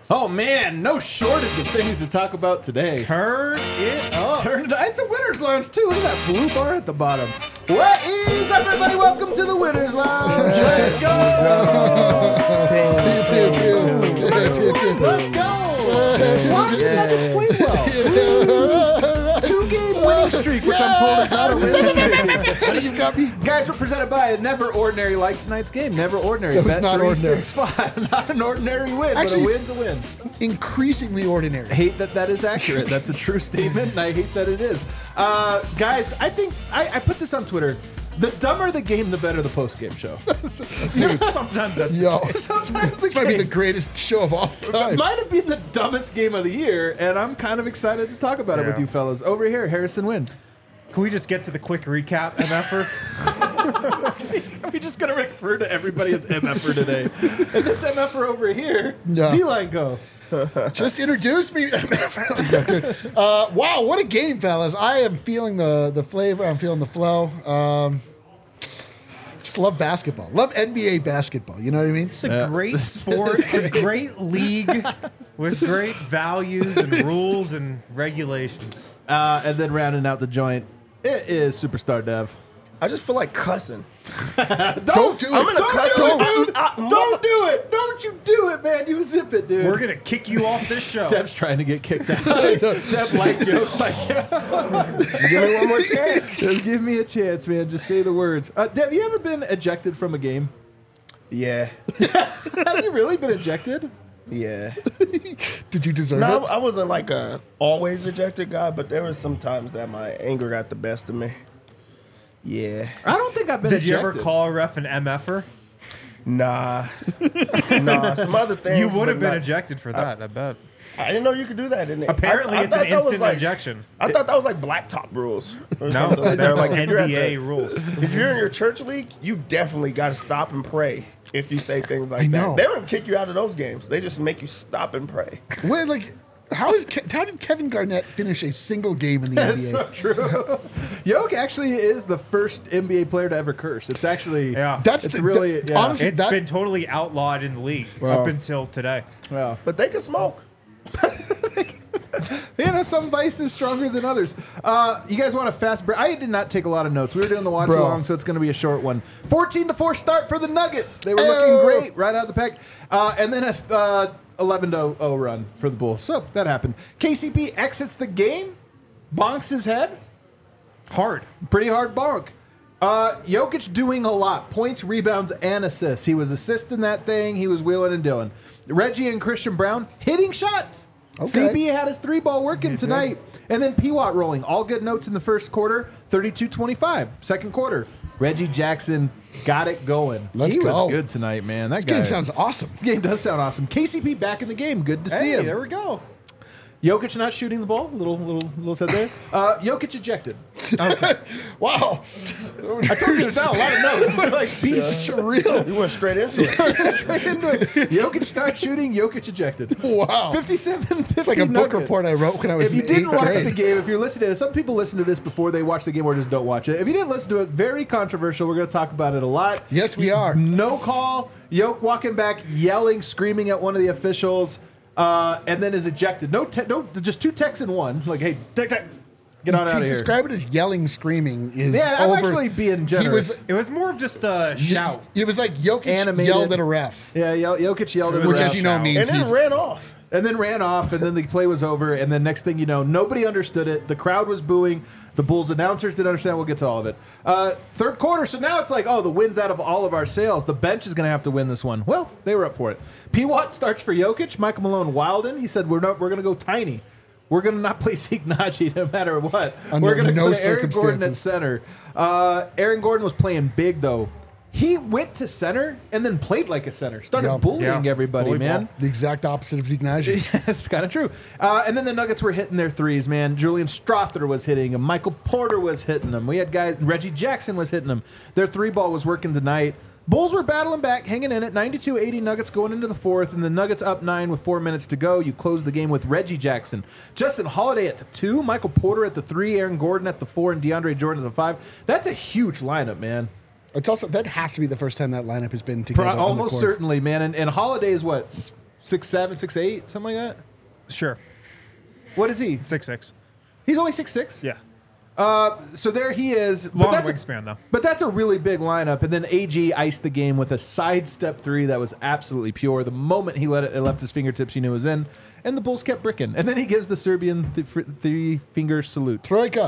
Oh man, no shortage of things to talk about today. Turn it up. Turn it up. It's a winner's lounge too. Look at that blue bar at the bottom. What is up, everybody? Welcome to the winner's lounge. Let's go. Let's go. Why did that play well? 2-game winning streak, which I'm told is not a winning streak. You've got me. Guys, we're presented by Never Ordinary. Like tonight's game, Never Ordinary. That was not ordinary. 365. Not an ordinary win, Actually, but a win's a win. Increasingly ordinary. I hate that is accurate. That's a true statement, and I hate that it is. Guys, I think I put this on Twitter. The dumber the game, the better the post-game show. Dude, Sometimes that's Sometimes this might be the greatest show of all time. It might have been the dumbest game of the year, and I'm kind of excited to talk about it with you fellas. Over here, Harrison Wynn. Can we just get to the quick recap, MFer? Are we just going to refer to everybody as MFer today? And this MFer over here, Yeah. D-Line go. Just introduce me. Wow, what a game, fellas. I am feeling the flavor. I'm feeling the flow. Just love basketball. Love NBA basketball. You know what I mean? It's a great sport, a great league with great values and rules and regulations. And then rounding out the joint, it is Superstar Dev. I just feel like cussing. Don't do it. I'm gonna cuss. Don't do it. Don't you do it, man. You zip it, dude. We're going to kick you off this show. Dev's trying to get kicked out. Dev like jokes like, Give me one more chance. just give me a chance, man. Just say the words. Dev, you ever been ejected from a game? Yeah. Have you really been ejected? Yeah. Did you deserve No, it? I wasn't like a always rejected guy, but there was some times that my anger got the best of me. Yeah. I don't think I've been Did ejected. you ever call a ref an MFer? Nah. Some other things. You would but have been not- ejected for that, I bet. I didn't know you could do that, didn't it? Apparently, I it's an thought that was instant like- ejection. I thought that was like blacktop rules. Or No, something. They're that's like, if you're at NBA the- rules. If you're in your church league, you definitely got to stop and pray if you say things like I that. know. They don't kick you out of those games. They just make you stop and pray. Wait, like, how did Kevin Garnett finish a single game in the That's so NBA? true. Yoke actually is the first NBA player to ever curse. It's actually Yeah. it's really honestly, It's been totally outlawed in the league Wow. up until today. Wow. But they can smoke. You know, some vices stronger than others. You guys want a fast break? I did not take a lot of notes. We were doing the watch Bro. along, so it's going to be a short one. 14-4 start for the Nuggets. They were looking great right out of the pack. And then a 11-0 run for the Bulls. So that happened. KCP exits the game, bonks his head. Hard. Pretty hard bonk. Jokic doing a lot. Points, rebounds, and assists. He was assisting that thing. He was wheeling and dealing. Reggie and Christian Brown hitting shots. Okay. CB had his 3-ball working tonight. And then P-Watt rolling. All good notes in the first quarter. 32-25. Second quarter. Reggie Jackson got it going. Let's he go. was good tonight, man. That This guy. game sounds awesome. Game does sound awesome. KCP back in the game. Good to see Hey, him. there we go. Jokic not shooting the ball. Little said there. Jokic ejected. Wow. I told you there's not a lot of notes. They're like beats. Surreal. You went straight into it. Straight into it. Jokic not shooting. Jokic ejected. Wow. 57-50 It's like a book Nuggets. report I wrote when I was If you in didn't 8th watch grade. the game, if you're listening to this, some people listen to this before they watch the game or just don't watch it. If you didn't listen to it, very controversial. We're going to talk about it a lot. Yes, we are. No call. Yoke walking back, yelling, screaming at one of the officials, and then is ejected. No, just 2 techs in one. Like, hey, tech, get on out of here. Describe it as yelling, screaming is Yeah, I'm over. actually being He generous. was. It was more of just a shout. It was like Jokic Animated. yelled at a ref, Yeah, Jokic yelled at his which, ref. as you know, means And then he's ran off. And then ran off, and then the play was over, and then next thing you know, nobody understood it. The crowd was booing. The Bulls announcers didn't understand. We'll get to all of it. Third quarter, so now it's like, oh, the win's out of all of our sails. The bench is going to have to win this one. Well, they were up for it. P-Watt starts for Jokic. Michael Malone Wilden. He said, we're going to go tiny. We're going to not play Signaci no matter what. Under We're going to no go to Aaron Gordon at circumstances. center. Aaron Gordon was playing big, though. He went to center and then played like a center. Started Yeah. bullying Yeah. everybody, Bully man. ball. the exact opposite of Zignagi. That's kind of true. And then the Nuggets were hitting their threes, man. Julian Strother was hitting them. Michael Porter was hitting them. We had guys, Reggie Jackson was hitting them. Their 3-ball was working tonight. Bulls were battling back, hanging in it. 92-80 Nuggets going into the fourth, and the Nuggets up 9 with 4 minutes to go. You close the game with Reggie Jackson. Justin Holiday at the 2, Michael Porter at the 3, Aaron Gordon at the 4, and DeAndre Jordan at the 5. That's a huge lineup, man. It's also that has to be the first time that lineup has been together. on the Almost court. certainly, man. And Holiday is what? 6'7", 6'8", something like that. Sure. What is he? 6'6". He's only 6'6". Yeah. So there he is. Long that's wingspan, though. But that's a really big lineup. And then AG iced the game with a sidestep three that was absolutely pure. The moment he it left his fingertips, you knew it was in. And the Bulls kept bricking. And then he gives the Serbian three-finger salute. Troika.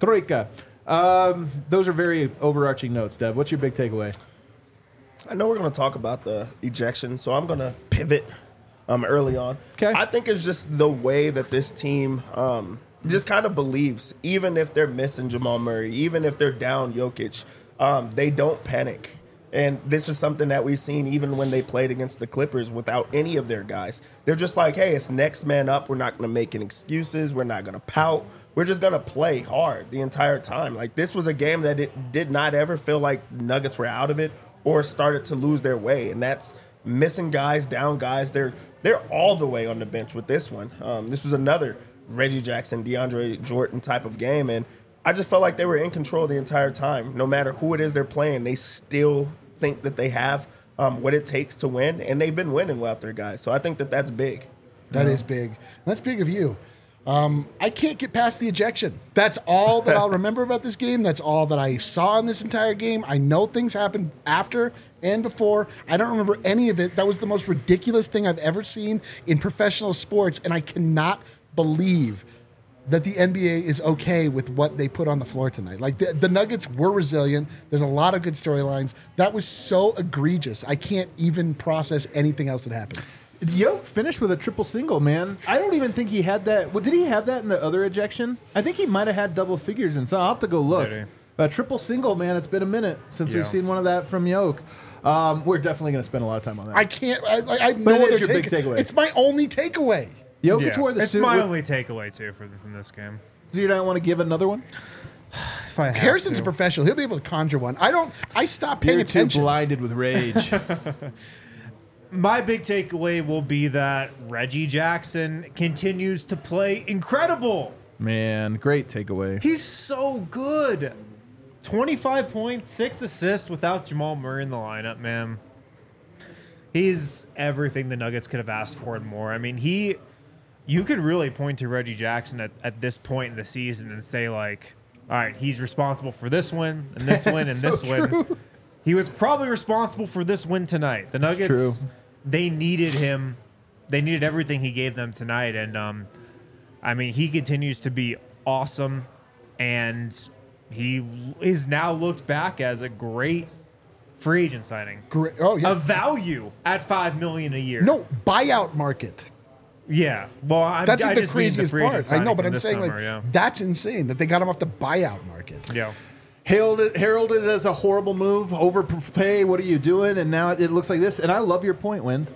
Those are very overarching notes, Dev. What's your big takeaway? I know we're going to talk about the ejection, so I'm going to pivot early on. Okay. I think it's just the way that this team just kind of believes, even if they're missing Jamal Murray, even if they're down Jokic, they don't panic. And this is something that we've seen even when they played against the Clippers without any of their guys. They're just like, hey, it's next man up. We're not going to make any excuses. We're not going to pout. We're just going to play hard the entire time. Like, this was a game that it did not ever feel like Nuggets were out of it or started to lose their way. And that's missing guys, down guys. They're all the way on the bench with this one. This was another Reggie Jackson, DeAndre Jordan type of game. And I just felt like they were in control the entire time. No matter who it is they're playing, they still think that they have what it takes to win. And they've been winning without their guys. So I think that that's big. That is big. That's big of you. I can't get past the ejection. That's all that I'll remember about this game. That's all that I saw in this entire game. I know things happened after and before. I don't remember any of it. That was the most ridiculous thing I've ever seen in professional sports, and I cannot believe that the NBA is okay with what they put on the floor tonight. Like, the Nuggets were resilient. There's a lot of good storylines. That was so egregious. I can't even process anything else that happened. Yoke finished with a triple single, man. I don't even think he had that. Well, did he have that in the other ejection? I think he might have had double figures, and so I'll have to go look. A triple single, man. It's been a minute since we've seen one of that from Yoke. We're definitely going to spend a lot of time on that. I can't. I have no other your big takeaway. It's my only takeaway. Jokic wore the It's suit. my only takeaway, too, from this game. Do you not want to give another one? If I have Harrison's to. a professional. He'll be able to conjure one. I stopped paying You're too attention. blinded with rage. My big takeaway will be that Reggie Jackson continues to play incredible. Man, great takeaway. He's so good. 25 points, 6 assists without Jamal Murray in the lineup, man. He's everything the Nuggets could have asked for and more. I mean, you could really point to Reggie Jackson at this point in the season and say, like, all right, he's responsible for this win and this win and this win. He was probably responsible for this win tonight. The Nuggets, they needed him. They needed everything he gave them tonight. And, I mean, he continues to be awesome. And he is now looked back as a great free agent signing. Great. Oh, yeah. A value at $5 million a year. No, buyout market. Yeah. Well, That's I the just mean craziest free agent part. I signing know, but from I'm this saying, summer, like, yeah. that's insane that they got him off the buyout market. Yeah. Heralded as a horrible move, overpay. What are you doing? And now it looks like this. And I love your point, Wind.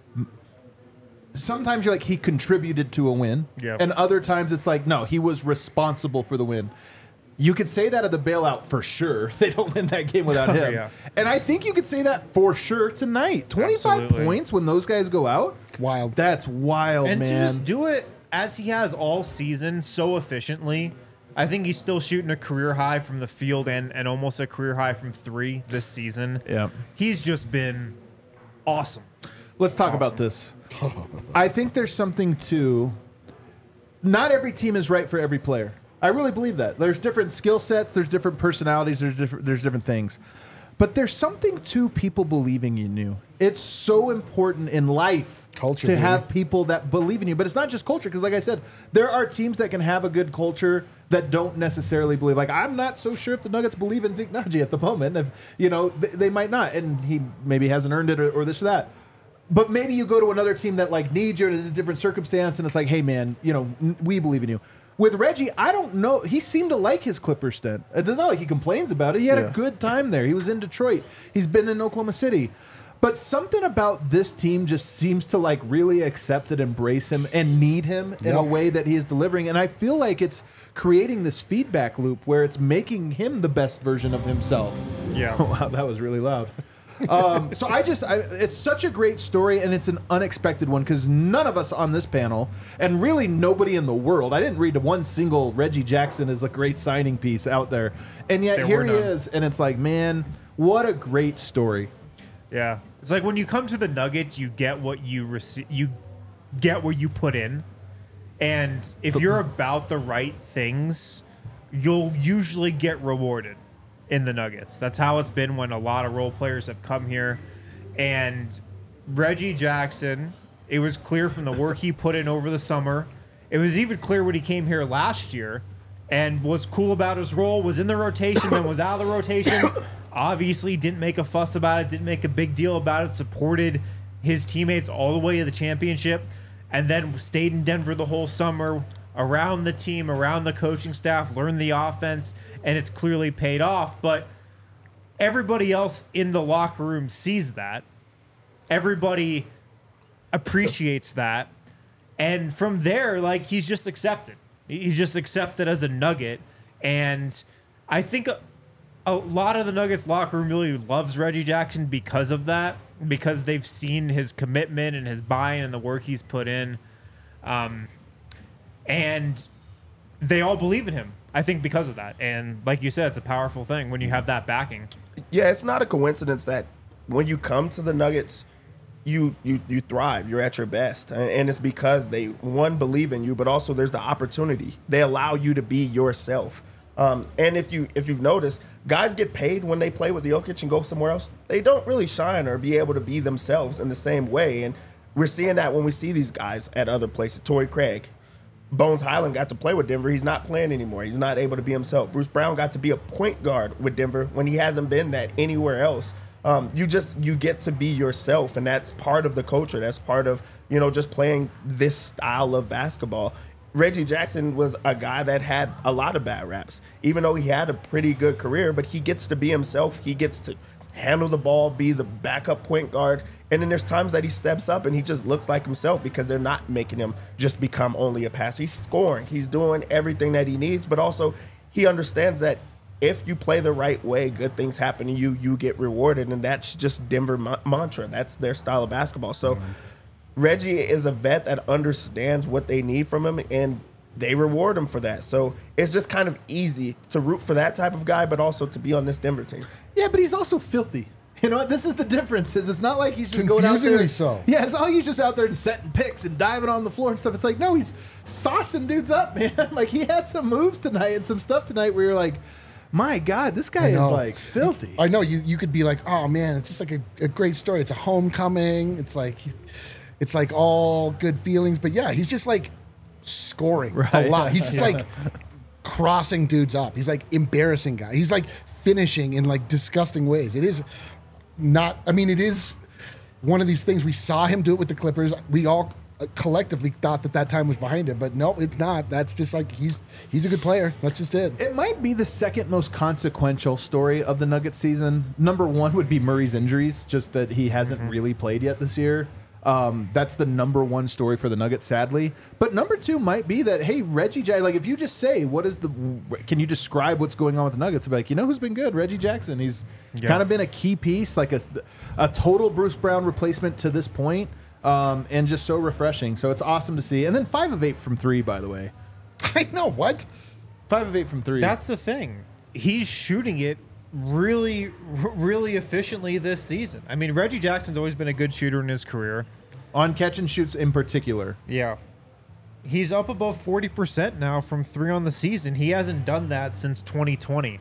Sometimes you're like, he contributed to a win. Yep. And other times it's like, no, he was responsible for the win. You could say that of the bailout for sure. They don't win that game without him. Yeah. And I think you could say that for sure tonight. 25 Absolutely. points when those guys go out? Wild. That's wild, And to man. just do it as he has all season so efficiently, I think he's still shooting a career high from the field and almost a career high from three this season. Yeah. He's just been awesome. Let's talk about this. I think there's something to not every team is right for every player. I really believe that. There's different skill sets, there's different personalities, there's different things. But there's something to people believing in you. It's so important in life Culture, to baby. have people that believe in you. But it's not just culture, because like I said, there are teams that can have a good culture that don't necessarily believe. Like, I'm not so sure if the Nuggets believe in Zeke Naji at the moment. If, you know, they might not, and he maybe hasn't earned it or this or that. But maybe you go to another team that like needs you in a different circumstance, and it's like, hey man, you know, we believe in you. With Reggie, I don't know. He seemed to like his Clippers stint. It's not like he complains about it. He had a good time there. He was in Detroit. He's been in Oklahoma City. But something about this team just seems to like really accept and embrace him and need him in a way that he is delivering. And I feel like it's creating this feedback loop where it's making him the best version of himself. Yeah. Oh, wow, that was really loud. So it's such a great story, and it's an unexpected one because none of us on this panel, and really nobody in the world, I didn't read one single Reggie Jackson as a great signing piece out there, and yet There here were he none. is, and it's like, man, what a great story. Yeah. It's like when you come to the Nuggets, you get what you receive. You get what you put in, and if you're about the right things, you'll usually get rewarded in the Nuggets. That's how it's been when a lot of role players have come here. And Reggie Jackson, it was clear from the work he put in over the summer. It was even clear when he came here last year and was cool about his role, was in the rotation, then was out of the rotation. Obviously didn't make a fuss about it, didn't make a big deal about it, supported his teammates all the way to the championship, and then stayed in Denver the whole summer, around the team, around the coaching staff, learned the offense, and it's clearly paid off. But everybody else in the locker room sees that. Everybody appreciates that. And from there, like, he's just accepted. He's just accepted as a Nugget. And I think a lot of the Nuggets locker room really loves Reggie Jackson because of that, because they've seen his commitment and his buy-in and the work he's put in. And they all believe in him, I think, because of that. And like you said, it's a powerful thing when you have that backing. Yeah, it's not a coincidence that when you come to the Nuggets, you thrive. You're at your best. And it's because they, one, believe in you, but also there's the opportunity. They allow you to be yourself. And if you've noticed, guys get paid when they play with Jokic and go somewhere else. They don't really shine or be able to be themselves in the same way. And we're seeing that when we see these guys at other places. Torrey Craig. Bones Highland got to play with Denver. He's not playing anymore. He's not able to be himself. Bruce Brown got to be a point guard with Denver when he hasn't been that anywhere else. You get to be yourself, and that's part of the culture. That's part of, just playing this style of basketball. Reggie Jackson was a guy that had a lot of bad raps, even though he had a pretty good career, but he gets to be himself. He gets to handle the ball, be the backup point guard. And then there's times that he steps up and he just looks like himself because they're not making him just become only a passer. He's scoring. He's doing everything that he needs, but also he understands that if you play the right way, good things happen to you. You get rewarded, and that's just Denver mantra. That's their style of basketball. So Reggie is a vet that understands what they need from him, and they reward him for that. So it's just kind of easy to root for that type of guy, but also to be on this Denver team. Yeah, but he's also filthy. You know what? This is the difference. Is it's not like he's just going out there. Confusingly so. Yeah, it's not like he's just out there and setting picks and diving on the floor and stuff. It's like, no, he's saucing dudes up, man. Like, he had some moves tonight and some stuff tonight where you're like, my God, this guy is like filthy. I know you could be like, oh man, it's just like a great story. It's a homecoming. It's like all good feelings. But yeah, he's just like scoring a lot. He's just like crossing dudes up. He's like embarrassing guy. He's like finishing in like disgusting ways. It is not, I mean, it is one of these things. We saw him do it with the Clippers. We all collectively thought that time was behind him, but no, it's not. That's just like, he's a good player. That's just it. It might be the second most consequential story of the Nuggets season. Number one would be Murray's injuries, just that he hasn't really played yet this year. That's the number one story for the Nuggets, sadly. But number two might be that, hey, Reggie Jackson, like, if you just say, can you describe what's going on with the Nuggets? Be like, who's been good? Reggie Jackson. He's kind of been a key piece, like a total Bruce Brown replacement to this point, and just so refreshing. So it's awesome to see. And then 5 of 8 from 3, by the way. I know, what? 5 of 8 from 3. That's the thing. He's shooting it really, really efficiently this season. I mean, Reggie Jackson's always been a good shooter in his career. On catch and shoots in particular. Yeah. He's up above 40% now from 3 on the season. He hasn't done that since 2020.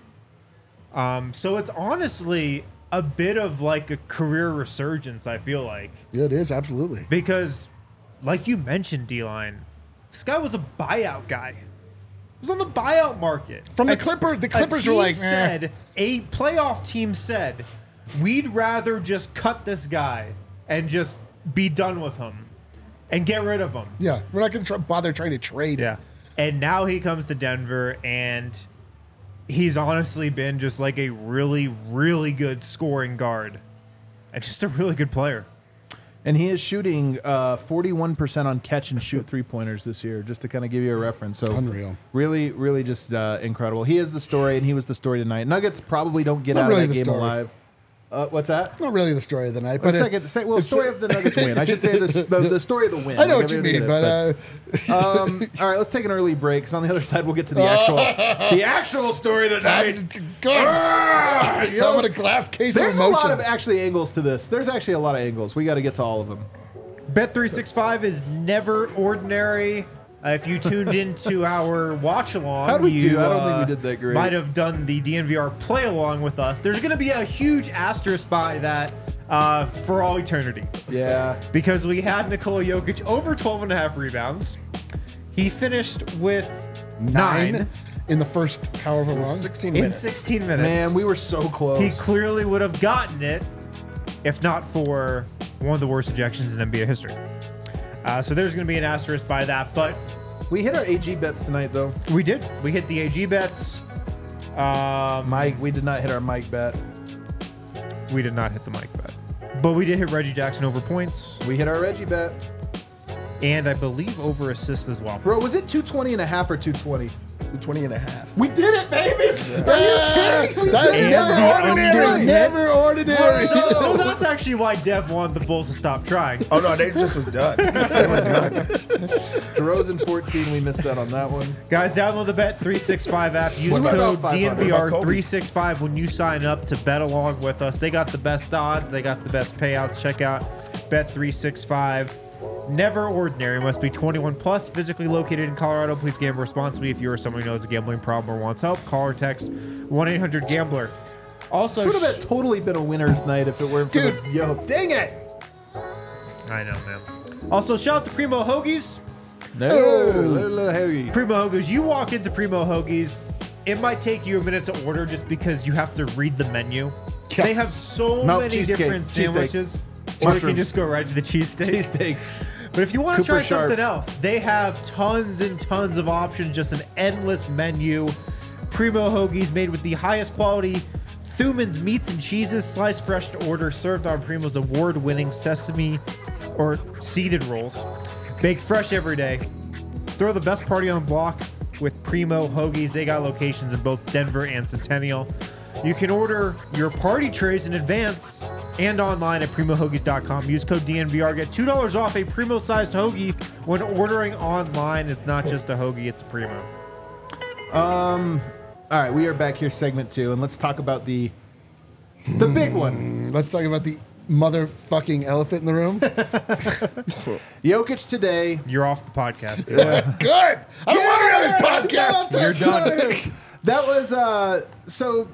So it's honestly a bit of like a career resurgence, I feel like. Yeah, it is, absolutely. Because, like you mentioned, D-Line, this guy was a buyout guy. He was on the buyout market. From the Clippers, were like, a playoff team said, we'd rather just cut this guy and just be done with him and get rid of him. Yeah, we're not going to bother trying to trade. Yeah. And now he comes to Denver, and he's honestly been just like a really, really good scoring guard and just a really good player. And he is shooting 41% on catch and shoot 3-pointers this year, just to kind of give you a reference. So unreal. Really, really just incredible. He is the story, and he was the story tonight. Nuggets probably don't get out of that game alive. What's that? Not really the story of the night, Well, but story of the Nuggets win. I should say the story of the win. I know Like, what you everybody mean, did, but all right, let's take an early break. So on the other side, we'll get to the actual story tonight. God, I'm in a glass case There's of a emotion. lot of actually angles to this. There's actually a lot of angles. We got to get to all of them. Bet365 is never ordinary. If you tuned into our watch along, How'd we you do? I don't think we did that great. might have done the DNVR play along with us. There's going to be a huge asterisk by that for all eternity. Yeah. Because we had Nikola Jokic over 12.5 rebounds. He finished with 9 in the first however long. 16 in minutes. 16 minutes. Man, we were so close. He clearly would have gotten it if not for one of the worst ejections in NBA history. So there's going to be an asterisk by that, but We hit our AG bets tonight, though. we did. We hit the AG bets. Mike, we did not hit our Mike bet. We did not hit the Mike bet, but we did hit Reggie Jackson over points, We hit our Reggie bet. and I believe over assists as well. Bro, was it 220 and a half or 220? 20 and a half. We did it, baby! Are you kidding? We That did is it. never ordinary. Right. Never ordinary. So that's actually why Dev wanted the Bulls to stop trying. Oh, no, they just was done. They were done. DeRozan 14, we missed out on that one. Guys, download the Bet365 app. Use What about code 500? DNVR365 when you sign up to bet along with us. They got the best odds. They got the best payouts. Check out Bet365. Never ordinary. Must be 21 plus. Physically located in Colorado. Please gamble responsibly. If you or someone who knows a gambling problem or wants help, call or text 1-800-GAMBLER. Also, This would have totally been a winner's night if it weren't for Dude. the yo. Dang it! I know, man. Also, shout out to Primo Hoagies. No. Primo Hoagies. You walk into Primo Hoagies, it might take you a minute to order just because you have to read the menu. Yeah. They have so No, many cheesecake, different cheesesteak. sandwiches. Or you Mushrooms. can just go right to the cheesesteak. Cheesesteak. But if you want to Cooper try Sharp. something else, they have tons and tons of options, just an endless menu. Primo Hoagies made with the highest quality Thuman's meats and cheeses, sliced fresh to order, served on Primo's award-winning sesame or seeded rolls. Baked fresh every day. Throw the best party on the block with Primo Hoagies. They got locations in both Denver and Centennial. You can order your party trays in advance and online at primohoagies.com. Use code DNVR. Get $2 off a Primo-sized hoagie when ordering online. It's not just a hoagie, it's a Primo. All right, we are back here, segment 2, and let's talk about the big one. Let's talk about the motherfucking elephant in the room. Jokic today. You're off the podcast, dude. Good. I don't want another podcast. You're done. That was so.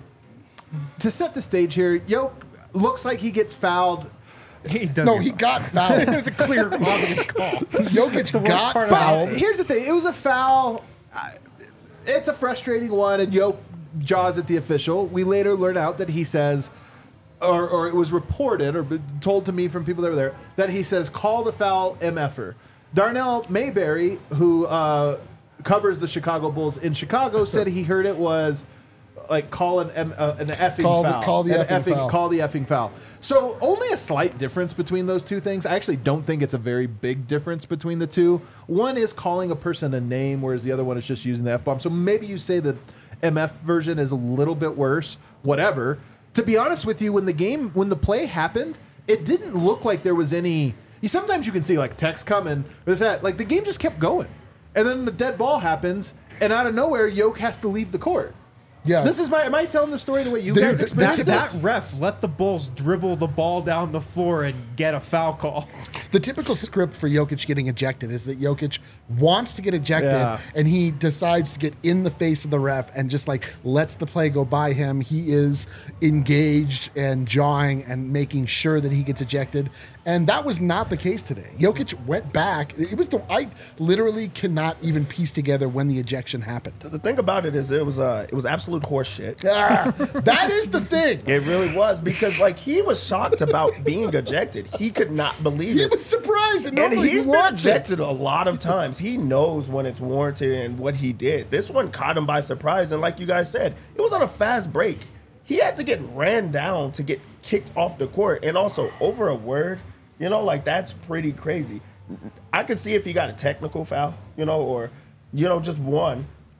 To set the stage here, looks like he gets fouled. He does. No, he got fouled. It's a clear, obvious call. Jokic the worst got part fouled. Here's the thing: it was a foul. It's a frustrating one, and Jokic jaws at the official. We later learn out that he says, or it was reported or told to me from people that were there, that he says, "Call the foul, MFer." Darnell Mayberry, who covers the Chicago Bulls in Chicago, said he heard it was like call an effing foul. Call the effing foul. Call the effing foul. So only a slight difference between those two things. I actually don't think it's a very big difference between the two. One is calling a person a name, whereas the other one is just using the F-bomb. So maybe you say the MF version is a little bit worse. Whatever. To be honest with you, when the play happened, it didn't look like there was any. Sometimes you can see like text coming. There's that. Like the game just kept going, and then the dead ball happens, and out of nowhere, Jokic has to leave the court. Yeah. Am I telling the story the way you Dude, guys the experienced it? That ref let the Bulls dribble the ball down the floor and get a foul call. The typical script for Jokic getting ejected is that Jokic wants to get ejected Yeah. and he decides to get in the face of the ref and just like lets the play go by him. He is engaged and jawing and making sure that he gets ejected. And that was not the case today. Jokic went back. I literally cannot even piece together when the ejection happened. The thing about it is it was absolute horse shit. That is the thing. It really was, because like he was shocked about being ejected. He could not believe He it. was surprised. And And normally he's he been wants it. ejected a lot of times. He knows when it's warranted and what he did. This one caught him by surprise. And like you guys said, it was on a fast break. He had to get ran down to get kicked off the court. And also over a word, like that's pretty crazy. I could see if he got a technical foul, or, just one.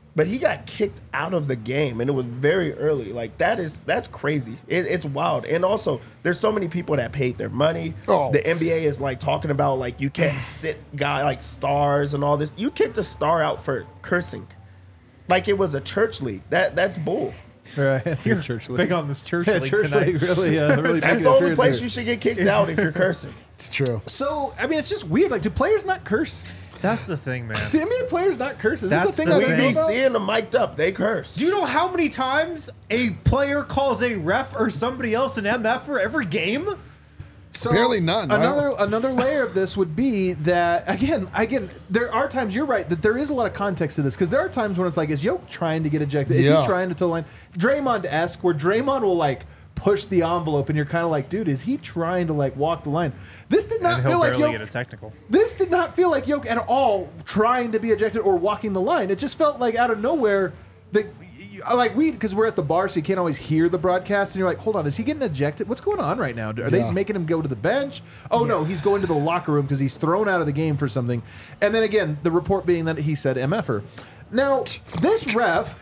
but he got kicked out of the game, and it was very early. Like that's crazy. It's wild. And also, there's so many people that paid their money. Oh. The NBA is like talking about like you can't sit guy like stars and all this. You kicked a star out for cursing, like it was a church league. That's bull. Right, it's your church league. Big on this church Yeah, league church tonight. league really, really. That's taking the it only seriously. place you should get kicked out if you're cursing. It's true. So I mean, it's just weird. Like, do players not curse? That's the thing, man. Do NBA players not curse? Is That's this a thing the I We don't thing. know be about? seeing them mic'd up. They curse. Do you know how many times a player calls a ref or somebody else an MF for every game? So Apparently none. Another layer of this would be that again, there are times you're right that there is a lot of context to this because there are times when it's like, is Yoke trying to get ejected? Is Yeah. he trying to toe the line? Draymond-esque, where Draymond will like push the envelope, and you're kind of like, dude, is he trying to like walk the line? This did not And feel he'll like barely Yoke. get a technical. This did not feel like Yoke at all trying to be ejected or walking the line. It just felt like out of nowhere because we're at the bar, so you can't always hear the broadcast, and you're like, hold on, is he getting ejected? What's going on right now? Are they Yeah. making him go to the bench? Oh no, he's going to the locker room because he's thrown out of the game for something. And then again, the report being that he said MFer. Now, this ref,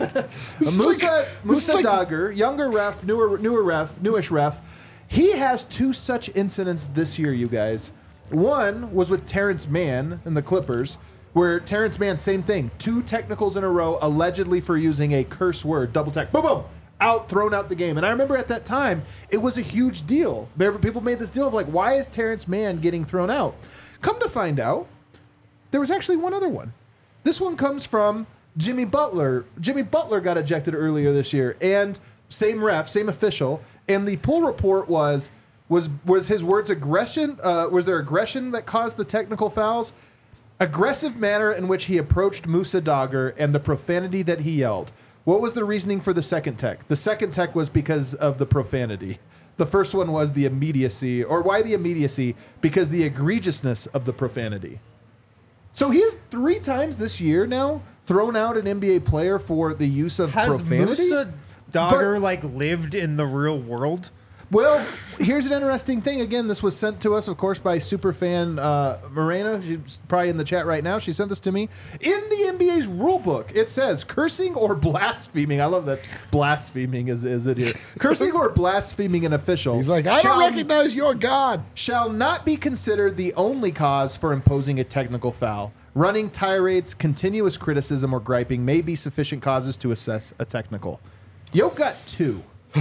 Musa Dagger, younger ref, newish ref, he has two such incidents this year, you guys. One was with Terrence Mann and the Clippers, where Terrence Mann, same thing, 2 technicals in a row, allegedly for using a curse word, double tech, boom, boom, thrown out the game. And I remember at that time, it was a huge deal. People made this deal of like, why is Terrence Mann getting thrown out? Come to find out, there was actually one other one. This one comes from Jimmy Butler. Jimmy Butler got ejected earlier this year, and same ref, same official. And the pool report was his words aggression? Was there aggression that caused the technical fouls? Aggressive manner in which he approached Musa Dagger and the profanity that he yelled. What was the reasoning for the second tech? The second tech was because of the profanity. The first one was the immediacy. Or why the immediacy? Because the egregiousness of the profanity. So he has 3 times this year now thrown out an NBA player for the use of Has profanity. Musa Dagger lived in the real world? Well, here's an interesting thing. Again, this was sent to us, of course, by superfan Morena. She's probably in the chat right now. She sent this to me. In the NBA's rule book, it says cursing or blaspheming. I love that blaspheming is it here. Cursing or blaspheming an official. He's like, I don't recognize your God. Shall not be considered the only cause for imposing a technical foul. Running tirades, continuous criticism, or griping may be sufficient causes to assess a technical. Yoke got 2.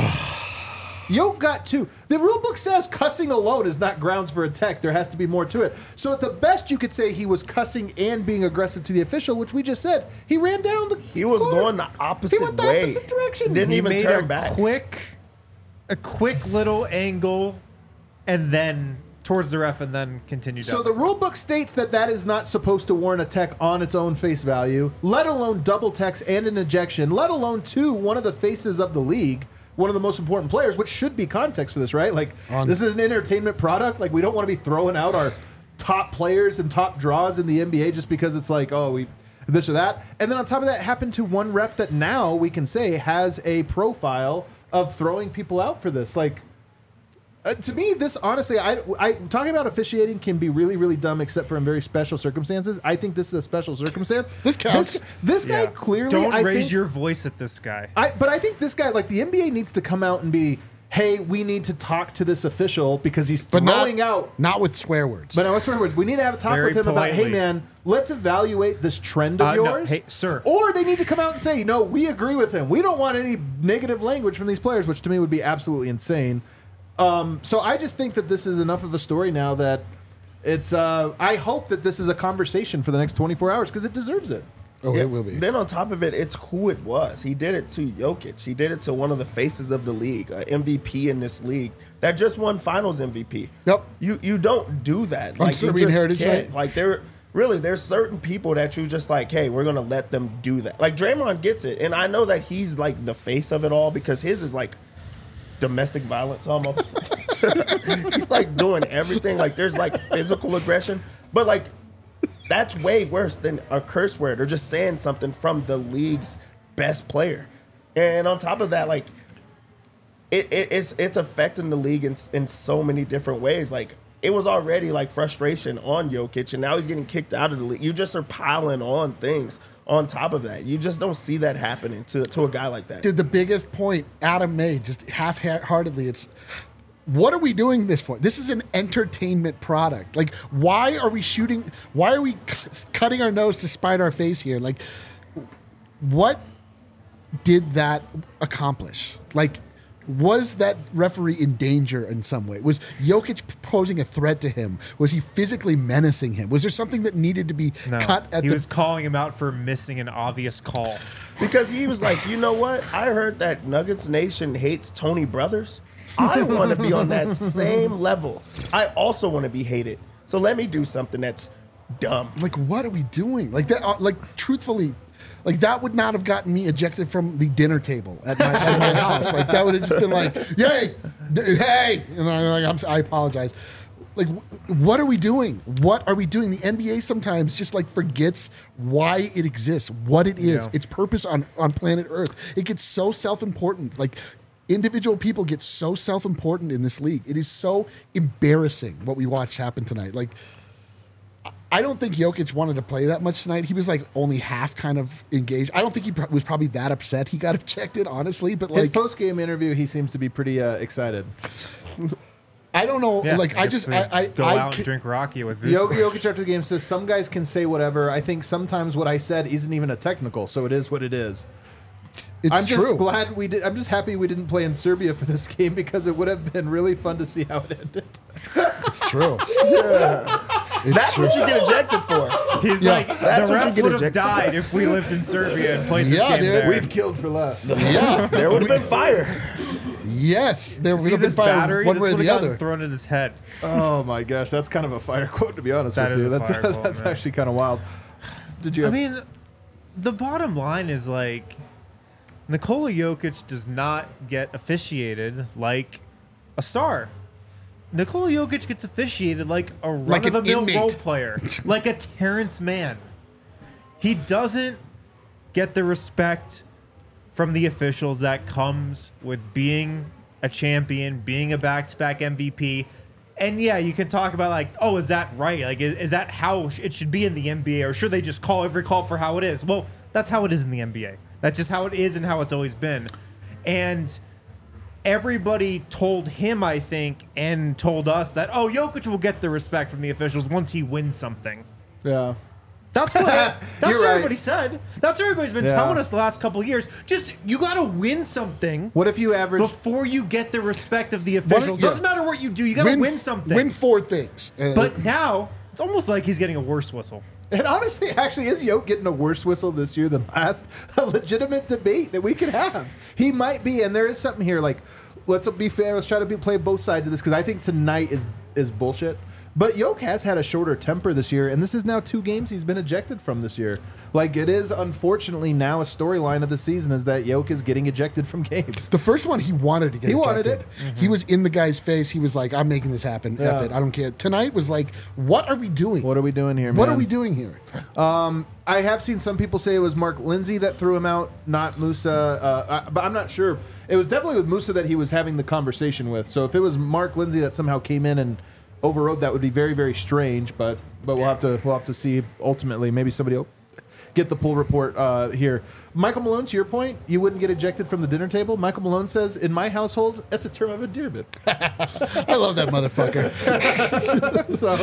Yoke got 2. The rule book says cussing alone is not grounds for a tech. There has to be more to it. So at the best, you could say he was cussing and being aggressive to the official, which we just said. He ran down the He was court. going the opposite He went the way. opposite direction. Didn't He even made turn a back. quick little angle, and then towards the ref, and then continued. So down the rule book states that is not supposed to warrant a tech on its own face value, let alone double techs and an ejection, let alone one of the faces of the league, one of the most important players, which should be context for this, right? This is an entertainment product. Like, we don't want to be throwing out our top players and top draws in the NBA just because it's like, oh, we this or that. And then on top of that, happened to one ref that now we can say has a profile of throwing people out for this. To me, this honestly, I talking about officiating can be really, really dumb, except for in very special circumstances. I think this is a special circumstance. This counts. This guy clearly. Don't I raise think, your voice at this guy. But I think this guy, the NBA needs to come out and be, hey, we need to talk to this official because he's throwing out. Not with swear words. But no, swear words. We need to have a talk Very with him about, hey, politely. man, let's evaluate this trend of No, yours. hey, sir. Or they need to come out and say, no, we agree with him. We don't want any negative language from these players, which to me would be absolutely insane. So I just think that this is enough of a story now that it's. I hope that this is a conversation for the next 24 hours because it deserves it. Oh, it will be. Then on top of it, it's who it was. He did it to Jokic. He did it to one of the faces of the league, MVP in this league that just won Finals MVP. Yep. You don't do that. On you Serbian just Heritage can't. Night. There's certain people that you just like, hey, we're gonna let them do that. Like Draymond gets it, and I know that he's like the face of it all because his is like domestic violence almost. He's like doing everything. Like there's like physical aggression, but like that's way worse than a curse word or just saying something from the league's best player. And on top of that, like it's affecting the league in so many different ways. Like it was already like frustration on Jokic, and now he's getting kicked out of the league. You just are piling on things on top of that. You just don't see that happening to a guy like that. Dude, the biggest point Adam made, just half-heartedly, it's what are we doing this for? This is an entertainment product. Like, why are we shooting? Why are we cutting our nose to spite our face here? Like, what did that accomplish? Like, was that referee in danger in some way? Was Jokic posing a threat to him? Was he physically menacing him? Was there something that needed to be cut at he was calling him out for missing an obvious call. Because he was like, you know what? I heard that Nuggets Nation hates Tony Brothers. I want to be on that same level. I also want to be hated. So let me do something that's dumb. Like, what are we doing? Like that? Like, truthfully, like that would not have gotten me ejected from the dinner table at my house. Like that would have just been like, "Yay, hey!" And I'm like, I apologize. Like, what are we doing? What are we doing? The NBA sometimes just like forgets why it exists, what it is, its purpose on planet Earth. It gets so self-important. Like, individual people get so self-important in this league. It is so embarrassing what we watched happen tonight. Like, I don't think Jokic wanted to play that much tonight. He was like only half kind of engaged. I don't think he was probably that upset he got ejected, honestly. But His like post-game interview, he seems to be pretty excited. I don't know. Yeah, like I guess just they go out and drink Rocky with Jokic after the game says some guys can say whatever. I think sometimes what I said isn't even a technical, so it is what it is. It's I'm just true. glad we did. I'm just happy we didn't play in Serbia for this game because it would have been really fun to see how it ended. It's true. That's what you get ejected for. He's Yeah. like, That's the what you ref get would have ejected. died if we lived in Serbia and played this Yeah, game dude. there. We've killed for less. Yeah. There would have been fire. Yes. There would See have been this fire battery? one This way or would the have gotten other. thrown at his head. Oh my gosh, that's kind of a fire quote to be honest That with is you. a That's fire quote, that's man. actually kind of wild. Did you? I mean, the bottom line is like, Nikola Jokic does not get officiated like a star. Nikola Jokic gets officiated like a Like an run-of-the-mill inmate. role player, like a Terrence Mann. He doesn't get the respect from the officials that comes with being a champion, being a back-to-back MVP. And yeah, you can talk about like, oh, is that right? Like, is that how it should be in the NBA? Or should they just call every call for how it is? Well, that's how it is in the NBA. That's just how it is and how it's always been. And everybody told him, I think, and told us that, oh, Jokic will get the respect from the officials once he wins something. yeah. That's what You're right. everybody said. That's what everybody's been Yeah. telling us the last couple of years. Just, you got to win something What if you average? before you get the respect of the officials. yeah. Doesn't matter what you do. You got to win something. Win 4 things. But now, it's almost like he's getting a worse whistle. And honestly, actually, is Yoke getting a worse whistle this year than last? A legitimate debate that we could have. He might be, and there is something here. Like, let's be fair. Let's try to play both sides of this because I think tonight is bullshit. But Yoke has had a shorter temper this year, and this is now 2 games he's been ejected from this year. Like, it is unfortunately now a storyline of the season is that Yoke is getting ejected from games. the first one, he wanted to get He ejected. wanted it. He was in the guy's face. He was like, I'm making this happen. Yeah. F it. I don't care. Tonight was like, what are we doing? What are we doing here, man? What are we doing here? I have seen some people say it was Mark Lindsay that threw him out, not Musa. But I'm not sure. It was definitely with Musa that he was having the conversation with. So if it was Mark Lindsay that somehow came in and overrode, that would be very, very strange. But we'll have to see ultimately. Maybe somebody will get the pull report here. Michael Malone, to your point, you wouldn't get ejected from the dinner table. Michael Malone says, in my household, that's a term of endearment. I love that motherfucker. So,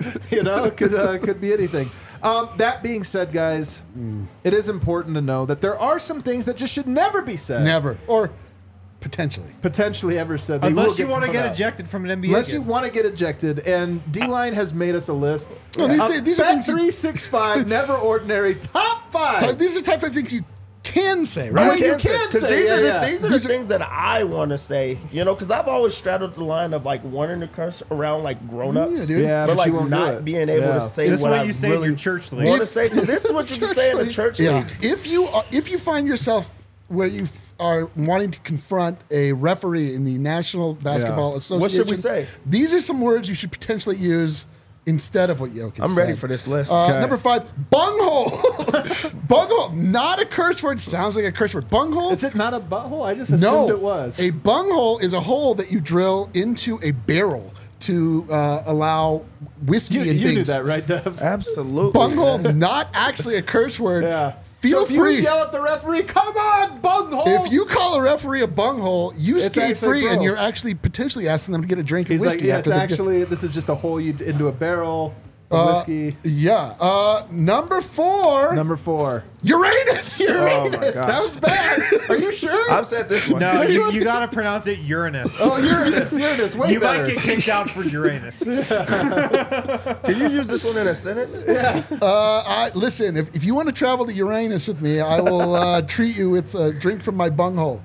it could be anything. That being said, guys, it is important to know that there are some things that just should never be said. Never. Or potentially. Potentially ever said. They Unless will you want to called get out. ejected from an NBA Unless game. you want to get ejected. And D-Line has made us a list. No, these are things you- 365, never ordinary, top 5. So these are type of things you can say, Right. right? You can Because say, these are yeah. these are the things that I want to say, because I've always straddled the line of like wanting to curse around like grown-ups, Yeah, dude. Yeah, but but you like won't do not it. being able Yeah. to say This is what what I you say in really your church league. want to say. So this is what you can say in the church Yeah. league. If you find yourself where you are wanting to confront a referee in the National Basketball Yeah. Association, What should we say? These are some words you should potentially use instead of what Jokic I'm ready said. for this list. Okay. Number 5, bunghole. Bunghole, not a curse word. Sounds like a curse word. Bunghole. Is it not a butthole? I just assumed No, it was. A bunghole is a hole that you drill into a barrel to allow whiskey you and knew things. that, right, Dev? Absolutely. Bunghole, not actually a curse word. Yeah. feel so if free. you yell at the referee, come on, bunghole. If you call a referee a bunghole, you It's skate actually free, and bro. you're actually potentially asking them to get a drink of He's like, whiskey yeah, after it's the actually, this is just a hole you into a barrel of whiskey. Yeah. Number 4, Number 4. Uranus. Uranus. gosh. Sounds bad. Are you sure? I've said this one. No, you got to pronounce it Uranus. Oh, Uranus. Uranus. Way You better. might get kicked out for Uranus. Can you use this one in a sentence? Listen, if you want to travel to Uranus with me, I will treat you with a drink from my bunghole.